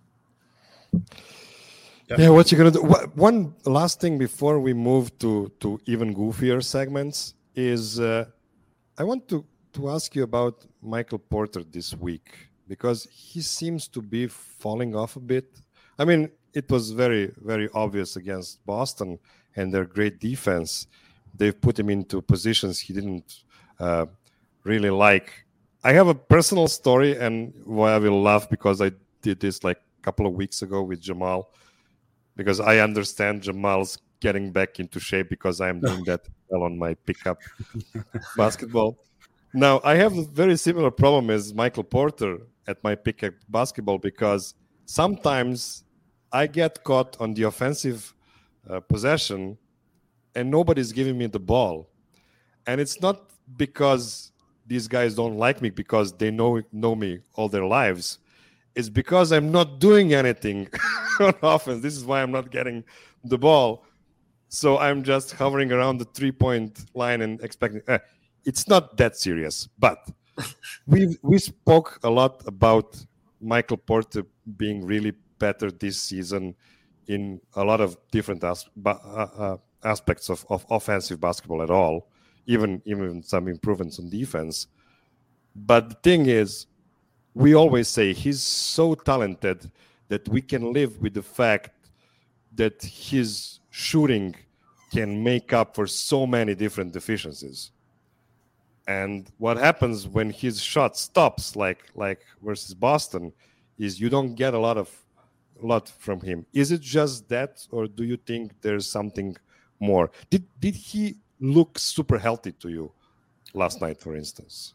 Yeah, what you gonna do? One last thing before we move to even goofier segments is I want to ask you about Michael Porter this week, because he seems to be falling off a bit. I mean, it was very, very obvious against Boston and their great defense. They've put him into positions he didn't really like. I have a personal story, and I will laugh because I did this like a couple of weeks ago with Jamal, because I understand Jamal's getting back into shape because I'm doing that well on my pickup basketball. Now, I have a very similar problem as Michael Porter at my pickup basketball, because sometimes I get caught on the offensive possession and nobody's giving me the ball. And it's not because these guys don't like me, because they know me all their lives. It's because I'm not doing anything on offense. This is why I'm not getting the ball. So I'm just hovering around the 3-point line and expecting. It's not that serious. But we spoke a lot about Michael Porter being really better this season in a lot of different aspects of offensive basketball at all, even some improvements on defense. But the thing is, we always say he's so talented that we can live with the fact that his shooting can make up for so many different deficiencies. And what happens when his shot stops, like versus Boston, is you don't get a lot from him. Is it just that, or do you think there's something more? Did he look super healthy to you last night, for instance?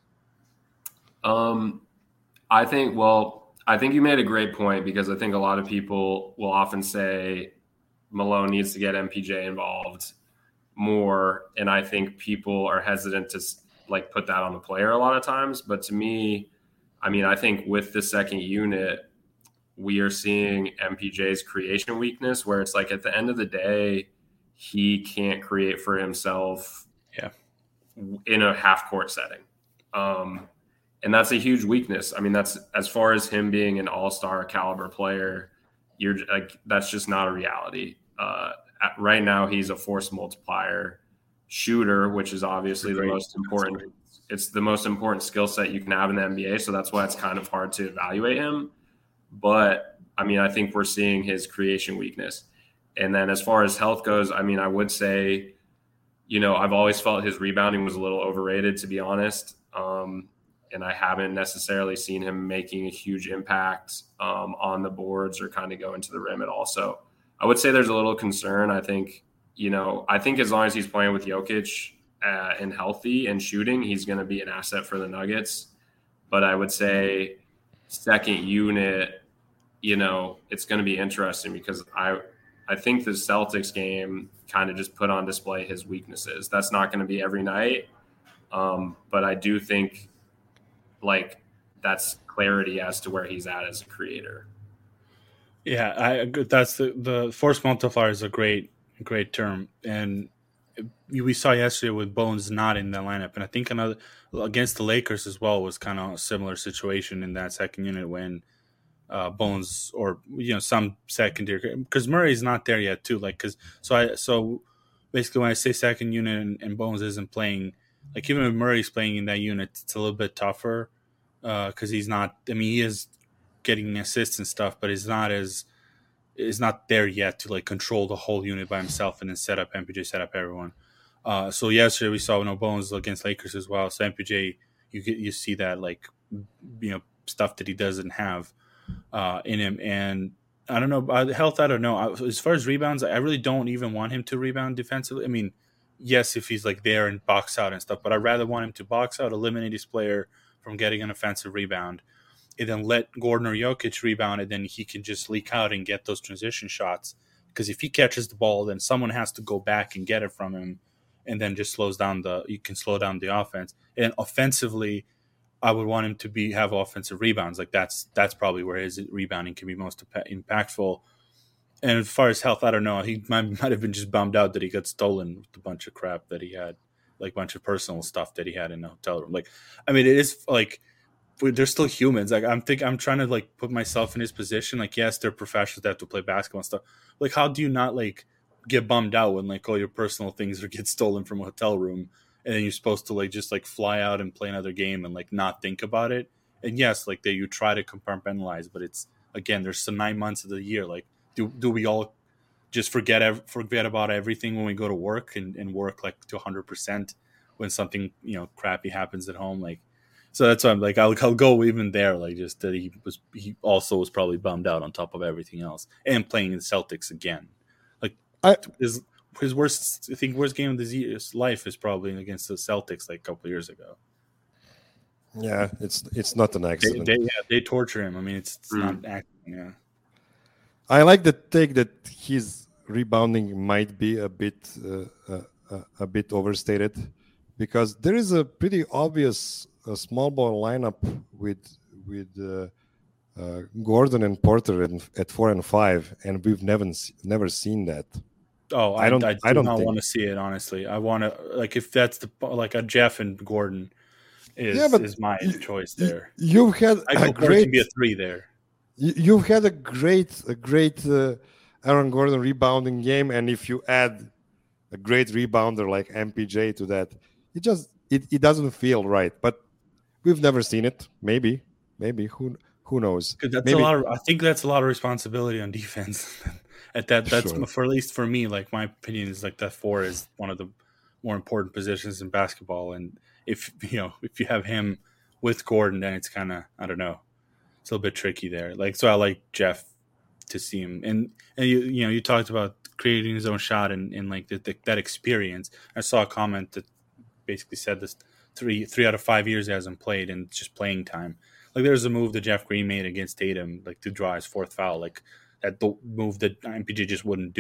I think you made a great point, because I think a lot of people will often say Malone needs to get MPJ involved more. And I think people are hesitant to like put that on the player a lot of times. But to me, I mean, I think with the second unit, we are seeing MPJ's creation weakness, where it's like at the end of the day, he can't create for himself in a half court setting. And that's a huge weakness. I mean, that's as far as him being an all-star caliber player, you're like, that's just not a reality. Right now, he's a force multiplier shooter, which is obviously the most important. It's the most important skill set you can have in the NBA. So that's why it's kind of hard to evaluate him. But I mean, I think we're seeing his creation weakness. And then as far as health goes, I mean, I would say, I've always felt his rebounding was a little overrated, to be honest. And I haven't necessarily seen him making a huge impact on the boards or kind of going to the rim at all. So I would say there's a little concern. I think as long as he's playing with Jokic and healthy and shooting, he's going to be an asset for the Nuggets. But I would say second unit, it's going to be interesting, because I think the Celtics game kind of just put on display his weaknesses. That's not going to be every night. But I do think like that's clarity as to where he's at as a creator.
Yeah, that's the force multiplier is a great term. And we saw yesterday with Bones not in the lineup. And I think another against the Lakers as well was kind of a similar situation in that second unit when Bones or some secondary, because Murray's not there yet too. Like so basically when I say second unit and Bones isn't playing, like even if Murray's playing in that unit, it's a little bit tougher because he's not. I mean, he is getting assists and stuff, but is not there yet to like control the whole unit by himself and then set up MPJ, set up everyone. So yesterday we saw Bones against Lakers as well. So MPJ, you see that like stuff that he doesn't have in him, and I don't know health. I don't know. As far as rebounds, I really don't even want him to rebound defensively. I mean, yes, if he's like there and box out and stuff, but I'd rather want him to box out, eliminate his player, from getting an offensive rebound, and then let Gordon or Jokic rebound, and then he can just leak out and get those transition shots. Because if he catches the ball, then someone has to go back and get it from him, and then just you can slow down the offense. And offensively, I would want him to have offensive rebounds. Like that's probably where his rebounding can be most impactful. And as far as health, I don't know. He might have been just bummed out that he got stolen with a bunch of crap that he had, like a bunch of personal stuff that he had in the hotel room. Like, I mean, it is like they're still humans. Like I'm trying to like put myself in his position. Like, yes, they're professionals. They have to play basketball and stuff. Like, how do you not like get bummed out when like all your personal things get stolen from a hotel room, and then you're supposed to like just like fly out and play another game and like not think about it? And yes, like you try to compartmentalize, but it's again, there's some 9 months of the year. Like, do we all just forget about everything when we go to work and work like to 100% when something crappy happens at home? Like, so that's why I'm like I'll go even there. Like, just that he also was probably bummed out on top of everything else and playing the Celtics again. Like his worst game of his life is probably against the Celtics like a couple of years ago.
Yeah, it's not an accident.
They torture him. I mean, it's not acting. Yeah.
I like the take that his rebounding might be a bit overstated, because there is a pretty obvious small ball lineup with Gordon and Porter at 4 and 5, and we've never seen that.
Oh, I don't want to see it, honestly. I want to, like, if that's a Jeff and Gordon is my choice there.
You've had
a great to be a 3 there.
You've had a great Aaron Gordon rebounding game, and if you add a great rebounder like MPJ to that, it doesn't feel right. But we've never seen it. Maybe who knows?
I think that's a lot of responsibility on defense. That's
sure.
For at least for me, like my opinion is like that 4 is one of the more important positions in basketball, and if you have him with Gordon, then it's kind of, I don't know, it's a little bit tricky there. Like, so I like Jeff to see him, and you talked about creating his own shot and like that experience. I saw a comment that basically said this 3 out of 5 years he hasn't played, and it's just playing time. Like, there's a move that Jeff Green made against Tatum, like to draw his 4th foul, like that the move that MPJ just couldn't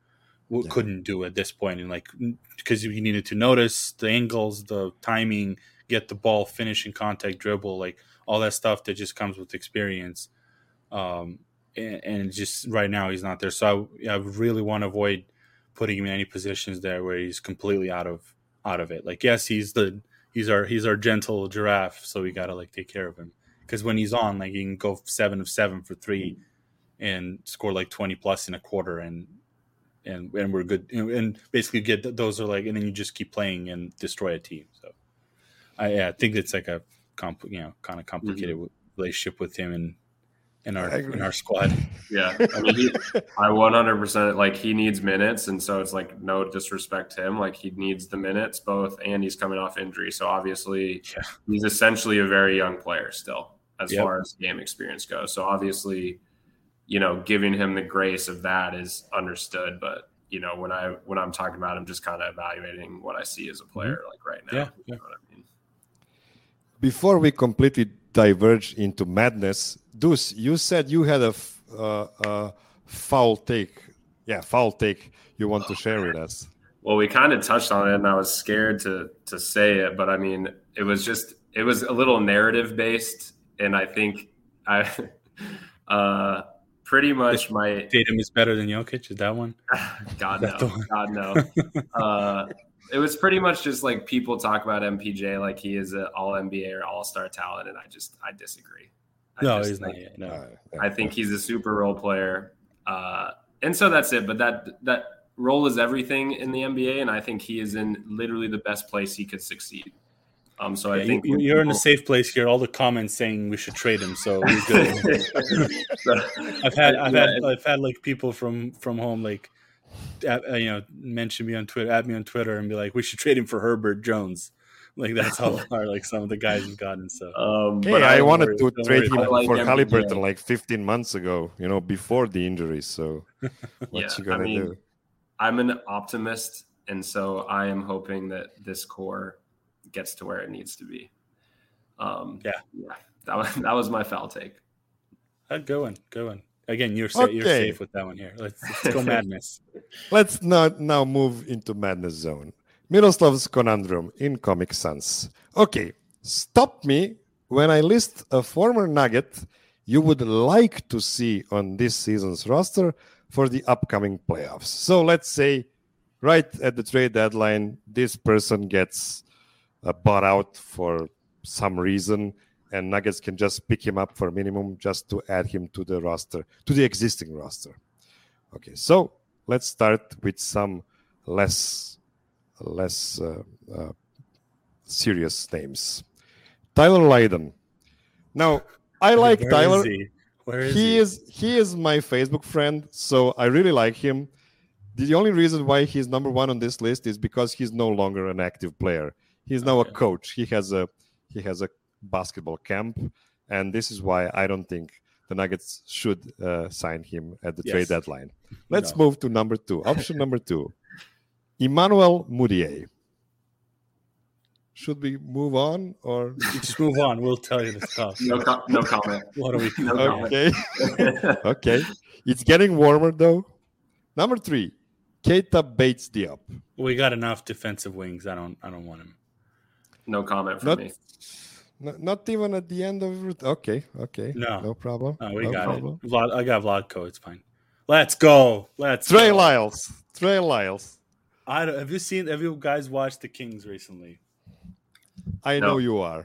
do at this point, and like because you needed to notice the angles, the timing, get the ball, finishing contact, dribble, like all that stuff that just comes with experience. And just right now he's not there, so I really want to avoid putting him in any positions there where he's completely out of it. Like, yes, he's our gentle giraffe, so we gotta like take care of him, because when he's on, like, he can go 7 of 7 for 3 and score like 20 plus in a quarter, and we're good, and basically get those are like, and then you just keep playing and destroy a team. So I think it's like a kind of complicated relationship with him in our squad.
Yeah, I mean, I 100% like he needs minutes, and so it's like no disrespect to him, like he needs the minutes both, and he's coming off injury, so obviously he's essentially a very young player still as far as game experience goes. So obviously, giving him the grace of that is understood, but when I'm talking about him, just kind of evaluating what I see as a player like right now.
Yeah.
You know what I mean?
Before we completely diverge into madness, Deuce, you said you had a foul take. Yeah, foul take you want to share with us.
Well, we kind of touched on it, and I was scared to say it, but I mean, it was a little narrative based, and I think pretty much my
Tatum is better than Jokic. Is that one?
God no. It was pretty much just like people talk about MPJ like he is an all NBA or all-star talent, and I disagree.
He's not yet. No.
I think he's a super role player, and so that's it. But that role is everything in the NBA, and I think he is in literally the best place he could succeed. So I think
you're in a safe place here. All the comments saying we should trade him, so we're good. I've had like people from home like mention me on Twitter, add me on Twitter, and be like, we should trade him for Herbert Jones. Like, that's how far like some of the guys have gotten. So
but I wanted to trade him for Haliburton like 15 months ago, before the injuries. So what you gonna do?
I'm an optimist, and so I am hoping that this core gets to where it needs to be. That was my foul take.
Go on. Again, you're safe with that one here. Let's go madness.
Let's now move into madness zone. Miroslav's conundrum in Comic Sans. Okay, stop me when I list a former Nugget you would like to see on this season's roster for the upcoming playoffs. So let's say right at the trade deadline, this person gets bought out for some reason, and Nuggets can just pick him up for minimum just to add him to the roster, to the existing roster. Okay, so let's start with some less serious names. Tyler Lydon. Now, I like Tyler.
Where is
He is my Facebook friend, so I really like him. The only reason why he's number one on this list is because he's no longer an active player. He's now a coach. He has a basketball camp, and this is why I don't think the Nuggets should sign him at the trade deadline. Let's move to number 2. Option number 2. Emmanuel Mudiay. Should we move on or
just move on? We'll tell you the stuff.
No comment.
What are we?
Okay. Okay. It's getting warmer though. Number 3, Keita Bates-Diop.
We got enough defensive wings. I don't want him.
No comment from me.
Not even at the end of it. Okay. No problem.
No, we got it. I got Vlatko. It's fine. Let's go.
Trey Lyles.
Have you guys watched the Kings recently?
I know you are.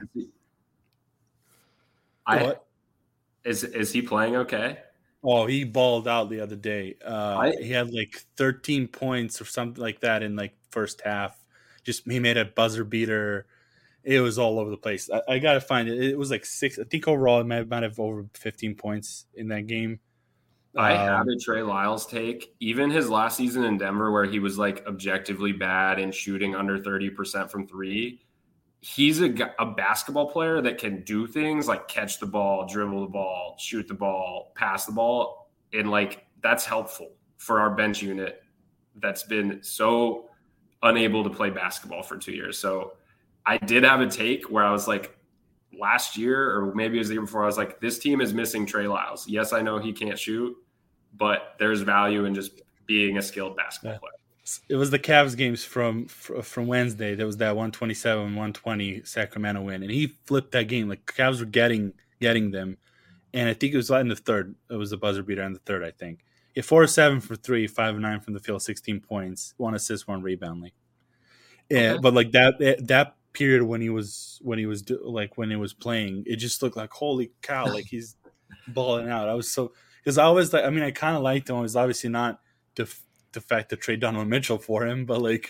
Is he playing okay?
Oh, he balled out the other day. He had like 13 points or something like that in like first half. He made a buzzer beater. It was all over the place. I gotta find it. It was like 6. I think overall it might have over 15 points in that game.
I have a Trey Lyles take. Even his last season in Denver, where he was like objectively bad and shooting under 30% from 3. He's a basketball player that can do things like catch the ball, dribble the ball, shoot the ball, pass the ball. And like, that's helpful for our bench unit that's been so unable to play basketball for 2 years. So I did have a take where I was like, last year, or maybe it was the year before, I was like, this team is missing Trey Lyles. Yes, I know he can't shoot, but there's value in just being a skilled basketball player.
It was the Cavs games from Wednesday. There was that 127-120 Sacramento win, and he flipped that game. Like Cavs were getting them, and I think it was in the third. It was a buzzer beater in the third, I think. He had 4-7 for 3, 5-9 from the field, 16 points, 1 assist, 1 rebound. But like that period when he was playing, it just looked like holy cow, like he's balling out. I was so because I was like, I mean, I kind of liked him. It was obviously not the fact to trade Donovan Mitchell for him, but like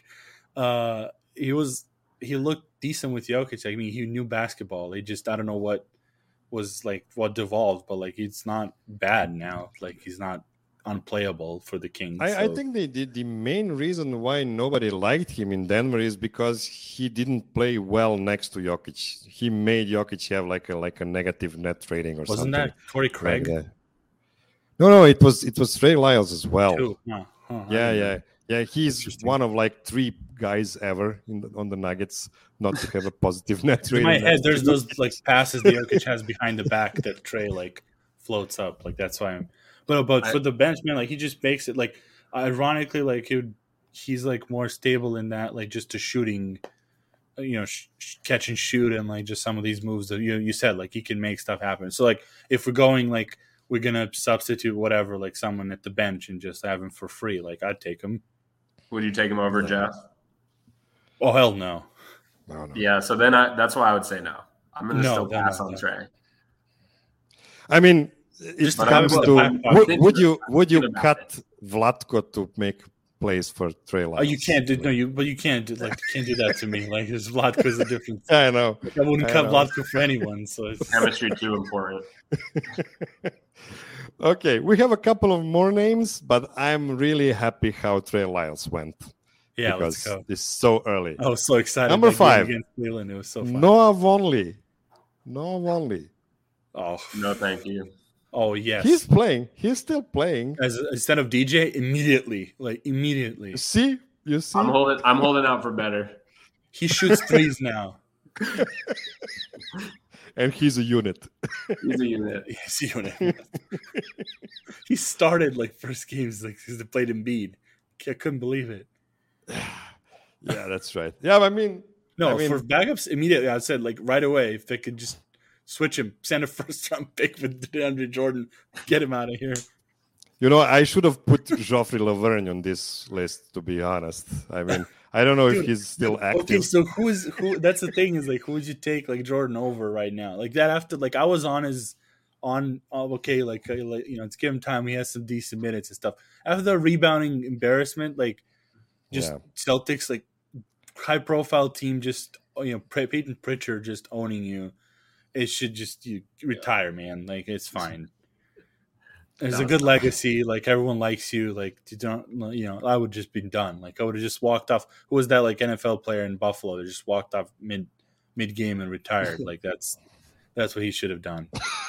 he looked decent with Jokic. I mean, he knew basketball. He just, I don't know what devolved, but like it's not bad now. Like he's not unplayable for the Kings.
I think the main reason why nobody liked him in Denver is because he didn't play well next to Jokic. He made Jokic have like a negative net rating or something.
Wasn't that Torrey Craig?
Like no, it was Trey Lyles as well. Yeah. He's one of like 3 guys ever on the Nuggets not to have a positive net rating.
In my head, there's those like passes the Jokic has behind the back that Trey like floats up. Like that's why I'm. But for the bench, man, like he just makes it like ironically, like he's like more stable in that, like just to shooting, catch and shoot, and like just some of these moves that you said, like he can make stuff happen. So like if we're going like we're gonna substitute whatever, like someone at the bench and just have him for free, like I'd take him.
Would you take him over Jeff?
Oh hell no.
No.
Yeah, so then that's why I would say no. I'm gonna still pass on Trey.
I mean, it comes to would you cut Vlatko to make plays for Trey Lyles?
Oh, you can't do you can't do that to me. Like his Vlatko's a difference.
I know.
I wouldn't cut Vlatko for anyone. So it's
chemistry too important.
Okay, we have a couple of more names, but I'm really happy how Trey Lyles went.
Yeah,
because
let's go.
It's so early.
I was so excited.
Number 5
against Cleveland. It was so fun.
Noah Vonleh.
Oh
no, thank you.
Oh yes,
he's playing. He's still playing.
Instead of DJ, immediately.
You see.
I'm holding out for better.
He shoots threes now.
And he's a unit.
He's a unit.
Yes, you know. He started like first games like because they played Embiid. I couldn't believe it.
Yeah, that's right. Yeah, I mean,
No,
I mean-
for backups immediately. I said like right away if they could just switch him, send a first round pick with DeAndre Jordan, get him out of here.
you know, I should have put Joffrey Lauvergne on this list, to be honest. I mean, I don't know if
Dude,
he's still active.
Okay, so who? That's the thing is like who would you take like Jordan over right now? Like that after like I was on his okay like you know let's give him time. He has some decent minutes and stuff. After the rebounding embarrassment, like just
Yeah.
Celtics like high profile team just Peyton Pritchard just owning you. It should just you retire, man. Like it's fine. There's a good legacy. Like everyone likes you. Like you don't, I would just be done. Like I would have just walked off. Who was that? Like NFL player in Buffalo that just walked off mid game and retired. Like that's what he should have done.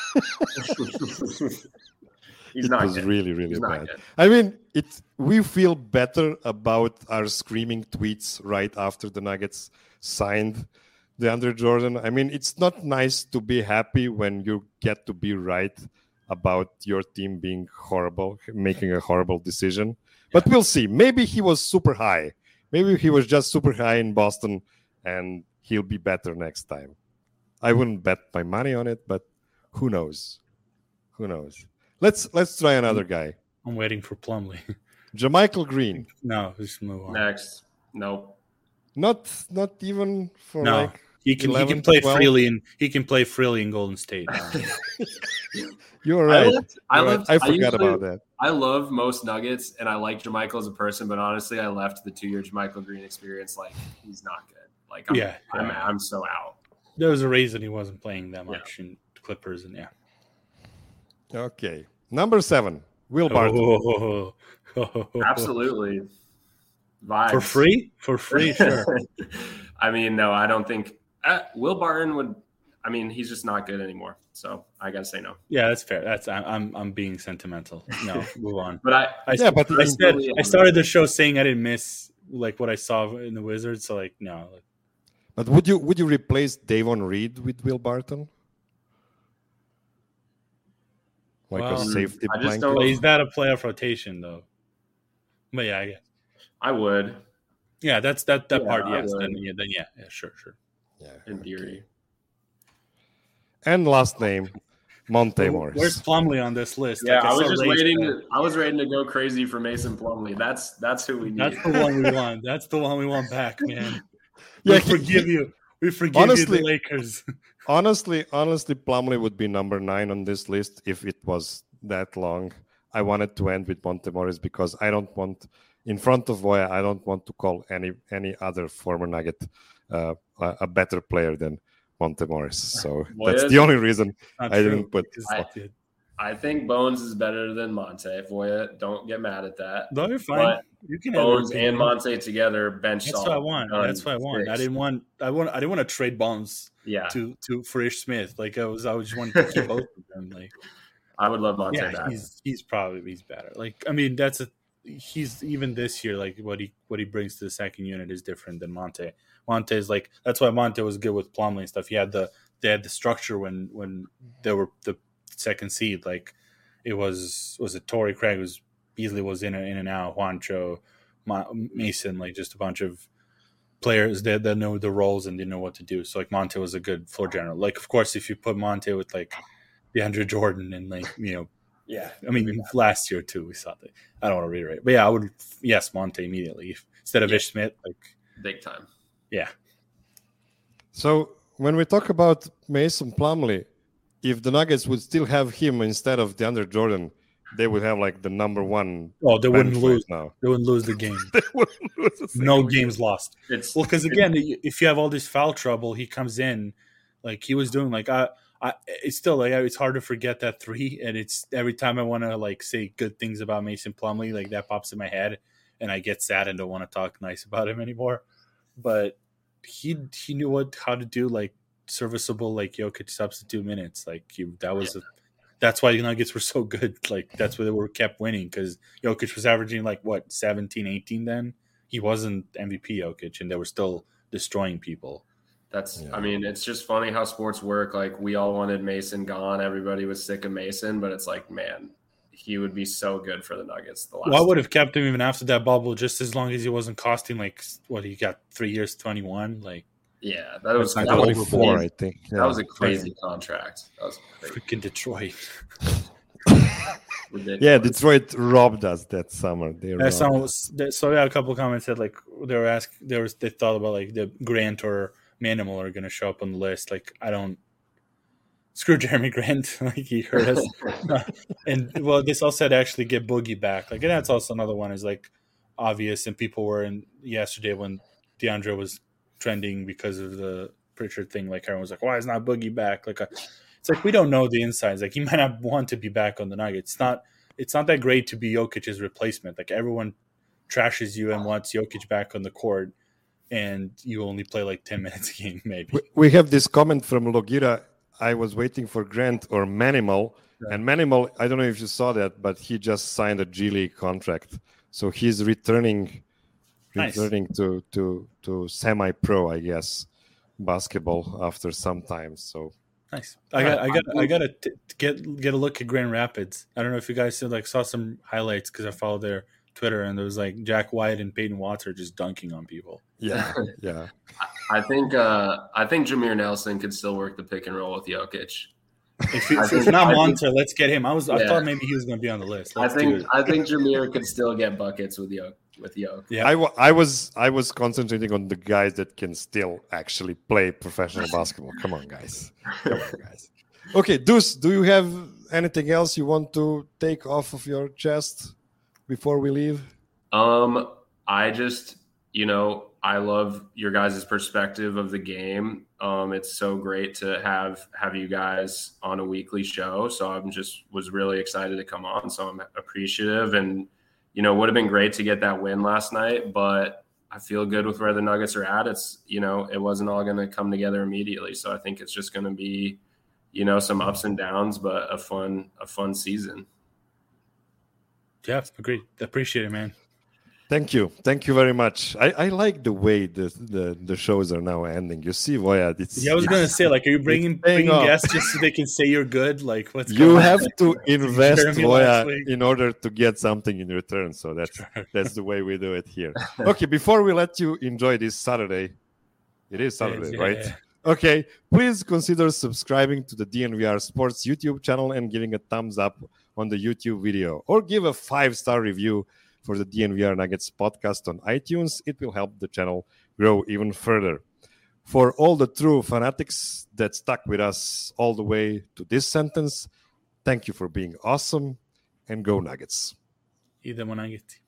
He's
It
not
was
good.
really, really
He's not
bad.
good.
I mean, we feel better about our screaming tweets right after the Nuggets signed DeAndre Jordan. I mean, it's not nice to be happy when you get to be right about your team being horrible, making a horrible decision. But we'll see. Maybe he was super high. Maybe he was just super high in Boston and he'll be better next time. I wouldn't bet my money on it, but who knows? Who knows? Let's try another guy.
I'm waiting for Plumlee.
JaMychal Green.
No, just move on.
Next. Nope.
Not even for
No.
like
He can
11,
play
12?
freely in Golden State.
You're right. I forgot about that.
I love most Nuggets, and I like JaMychal as a person, but honestly, I left the 2-year JaMychal Green experience like he's not good. Like I'm so out.
There was a reason he wasn't playing that much in Clippers, and
Okay. Number 7, Will Barton.
Absolutely. Vibes.
For free, sure.
I mean, no, I don't think Will Barton would. I mean, he's just not good anymore. So I gotta say no.
Yeah, that's fair. I'm being sentimental. No, move on.
But
I started the show saying I didn't miss like what I saw in the Wizards. So like no.
But would you replace Davon Reed with Will Barton? Like a safety
I just
blanket?
Well, he's not a playoff rotation though. But yeah, I guess.
I would.
Yeah, that's that part.
I
Yes,
would.
then yeah, sure.
Yeah,
In theory.
And last name, Monte Morris.
Where's Plumlee on this list?
Yeah,
Like,
I was
saw
just
Ray
waiting.
said.
I was waiting to go crazy for Mason Plumlee. That's who we need.
That's the one we want. That's the one we want back, man.
Yeah,
We forgive you. We forgive
Honestly-
you, the Lakers.
Honestly, Plumlee would be number 9 on this list if it was that long. I wanted to end with Monte Morris because I don't want, in front of Voya, I don't want to call any other former Nugget a better player than Monte Morris. So that's the only reason
Not
I
true,
didn't put.
because-
I think Bones is better than Monte. Voya, don't get mad at that.
No, you're fine.
But
You can have
Bones
your opinion.
and Monte together bench.
That's what I want. That's what I want. I didn't want to trade Bones
Yeah,
to for Ish Smith. Like I just wanted to keep both of them. Like
I would love Monte
yeah,
back.
he's better. Like I mean, he's even this year. Like what he brings to the second unit is different than Monte. Monte is like that's why Monte was good with Plumlee and stuff. They had the structure when they were the second seed. Like it was it Torrey Craig was Beasley was in and out, Juancho, Mason, like just a bunch of players that know the roles and didn't know what to do. So like Monte was a good floor general. Like of course if you put Monte with like DeAndre Jordan and like
Yeah,
I mean last year too we saw that. I don't want to reiterate, but yeah, I would Monte immediately instead of Ish Smith. Like
big time.
yeah,
So when we talk about Mason Plumlee, if the Nuggets would still have him instead of DeAndre Jordan, they would have like the number 1.
oh they wouldn't
bench
lose.
right now.
They wouldn't lose the game.
They wouldn't lose a
No
single
games lost.
It's
Well, because again, if you have all this foul trouble, he comes in like he was doing. Like it's still like it's hard to forget that 3, and it's every time I want to like say good things about Mason Plumlee, like that pops in my head, and I get sad and don't want to talk nice about him anymore. But he knew how to do like serviceable like Jokic substitute minutes. Like that's why the Nuggets were so good. Like that's why they were kept winning because Jokic was averaging like 17, 18 then. He wasn't MVP Jokic, and they were still destroying people.
I mean, it's just funny how sports work. Like, we all wanted Mason gone. Everybody was sick of Mason, but it's like, man, he would be so good for the Nuggets.
I would have kept him even after that bubble, just as long as he wasn't costing like what he got 3 years, 21. Like,
yeah, that was
24, I think. Yeah.
That was a crazy contract. That was crazy.
Freaking Detroit.
Yeah, Detroit robbed us that summer.
So a couple of comments said like they thought about like the Grant or Manimal are going to show up on the list. Like, I don't screw Jeremy Grant. Like, he hurt us. And well, this all said actually get Boogie back. Like, and that's also another one is like obvious. And people were in yesterday when DeAndre was trending because of the Pritchard thing. Like, everyone was like, why is not Boogie back? Like, it's like we don't know the insides. Like, he might not want to be back on the Nuggets. It's not that great to be Jokic's replacement. Like, everyone trashes you and wants Jokic back on the court, and you only play like 10 minutes a game, maybe.
We have this comment from Logira. I was waiting for Grant or Manimal. Yeah. And Manimal, I don't know if you saw that, but he just signed a G League contract. So he's returning to semi-pro, I guess, basketball after some time. So
nice. I got to get a look at Grand Rapids. I don't know if you guys saw some highlights because I follow their Twitter, and there was like Jack White and Peyton Watts are just dunking on people.
Yeah, yeah.
I think Jameer Nelson could still work the pick and roll with Jokic.
If it's not Monta, let's get him. I thought maybe he was going to be on the list.
I think Jameer could still get buckets with Jokic.
Yeah, I was concentrating on the guys that can still actually play professional basketball. Come on, guys. Okay, Deuce, do you have anything else you want to take off of your chest before we leave?
I just, I love your guys' perspective of the game. It's so great to have you guys on a weekly show. So was really excited to come on. So I'm appreciative, and would have been great to get that win last night, but I feel good with where the Nuggets are at. It's, it wasn't all going to come together immediately. So I think it's just going to be, some ups and downs, but a fun season.
Yeah, agreed. Appreciate it, man.
Thank you very much. I like the way the shows are now ending. You see, Voya.
I was gonna say, like, are you bringing guests just so they can say you're good? Like, what's
you have to invest, Voya, in order to get something in return. So that's the way we do it here. Okay, before we let you enjoy this Saturday, it is Saturday, right? Yeah. Okay, please consider subscribing to the DNVR Sports YouTube channel and giving a thumbs up on the YouTube video, or give a 5-star review for the DNVR Nuggets podcast on iTunes. It will help the channel grow even further. For all the true fanatics that stuck with us all the way to this sentence, thank you for being awesome, and go Nuggets.
Idemo Nuggets.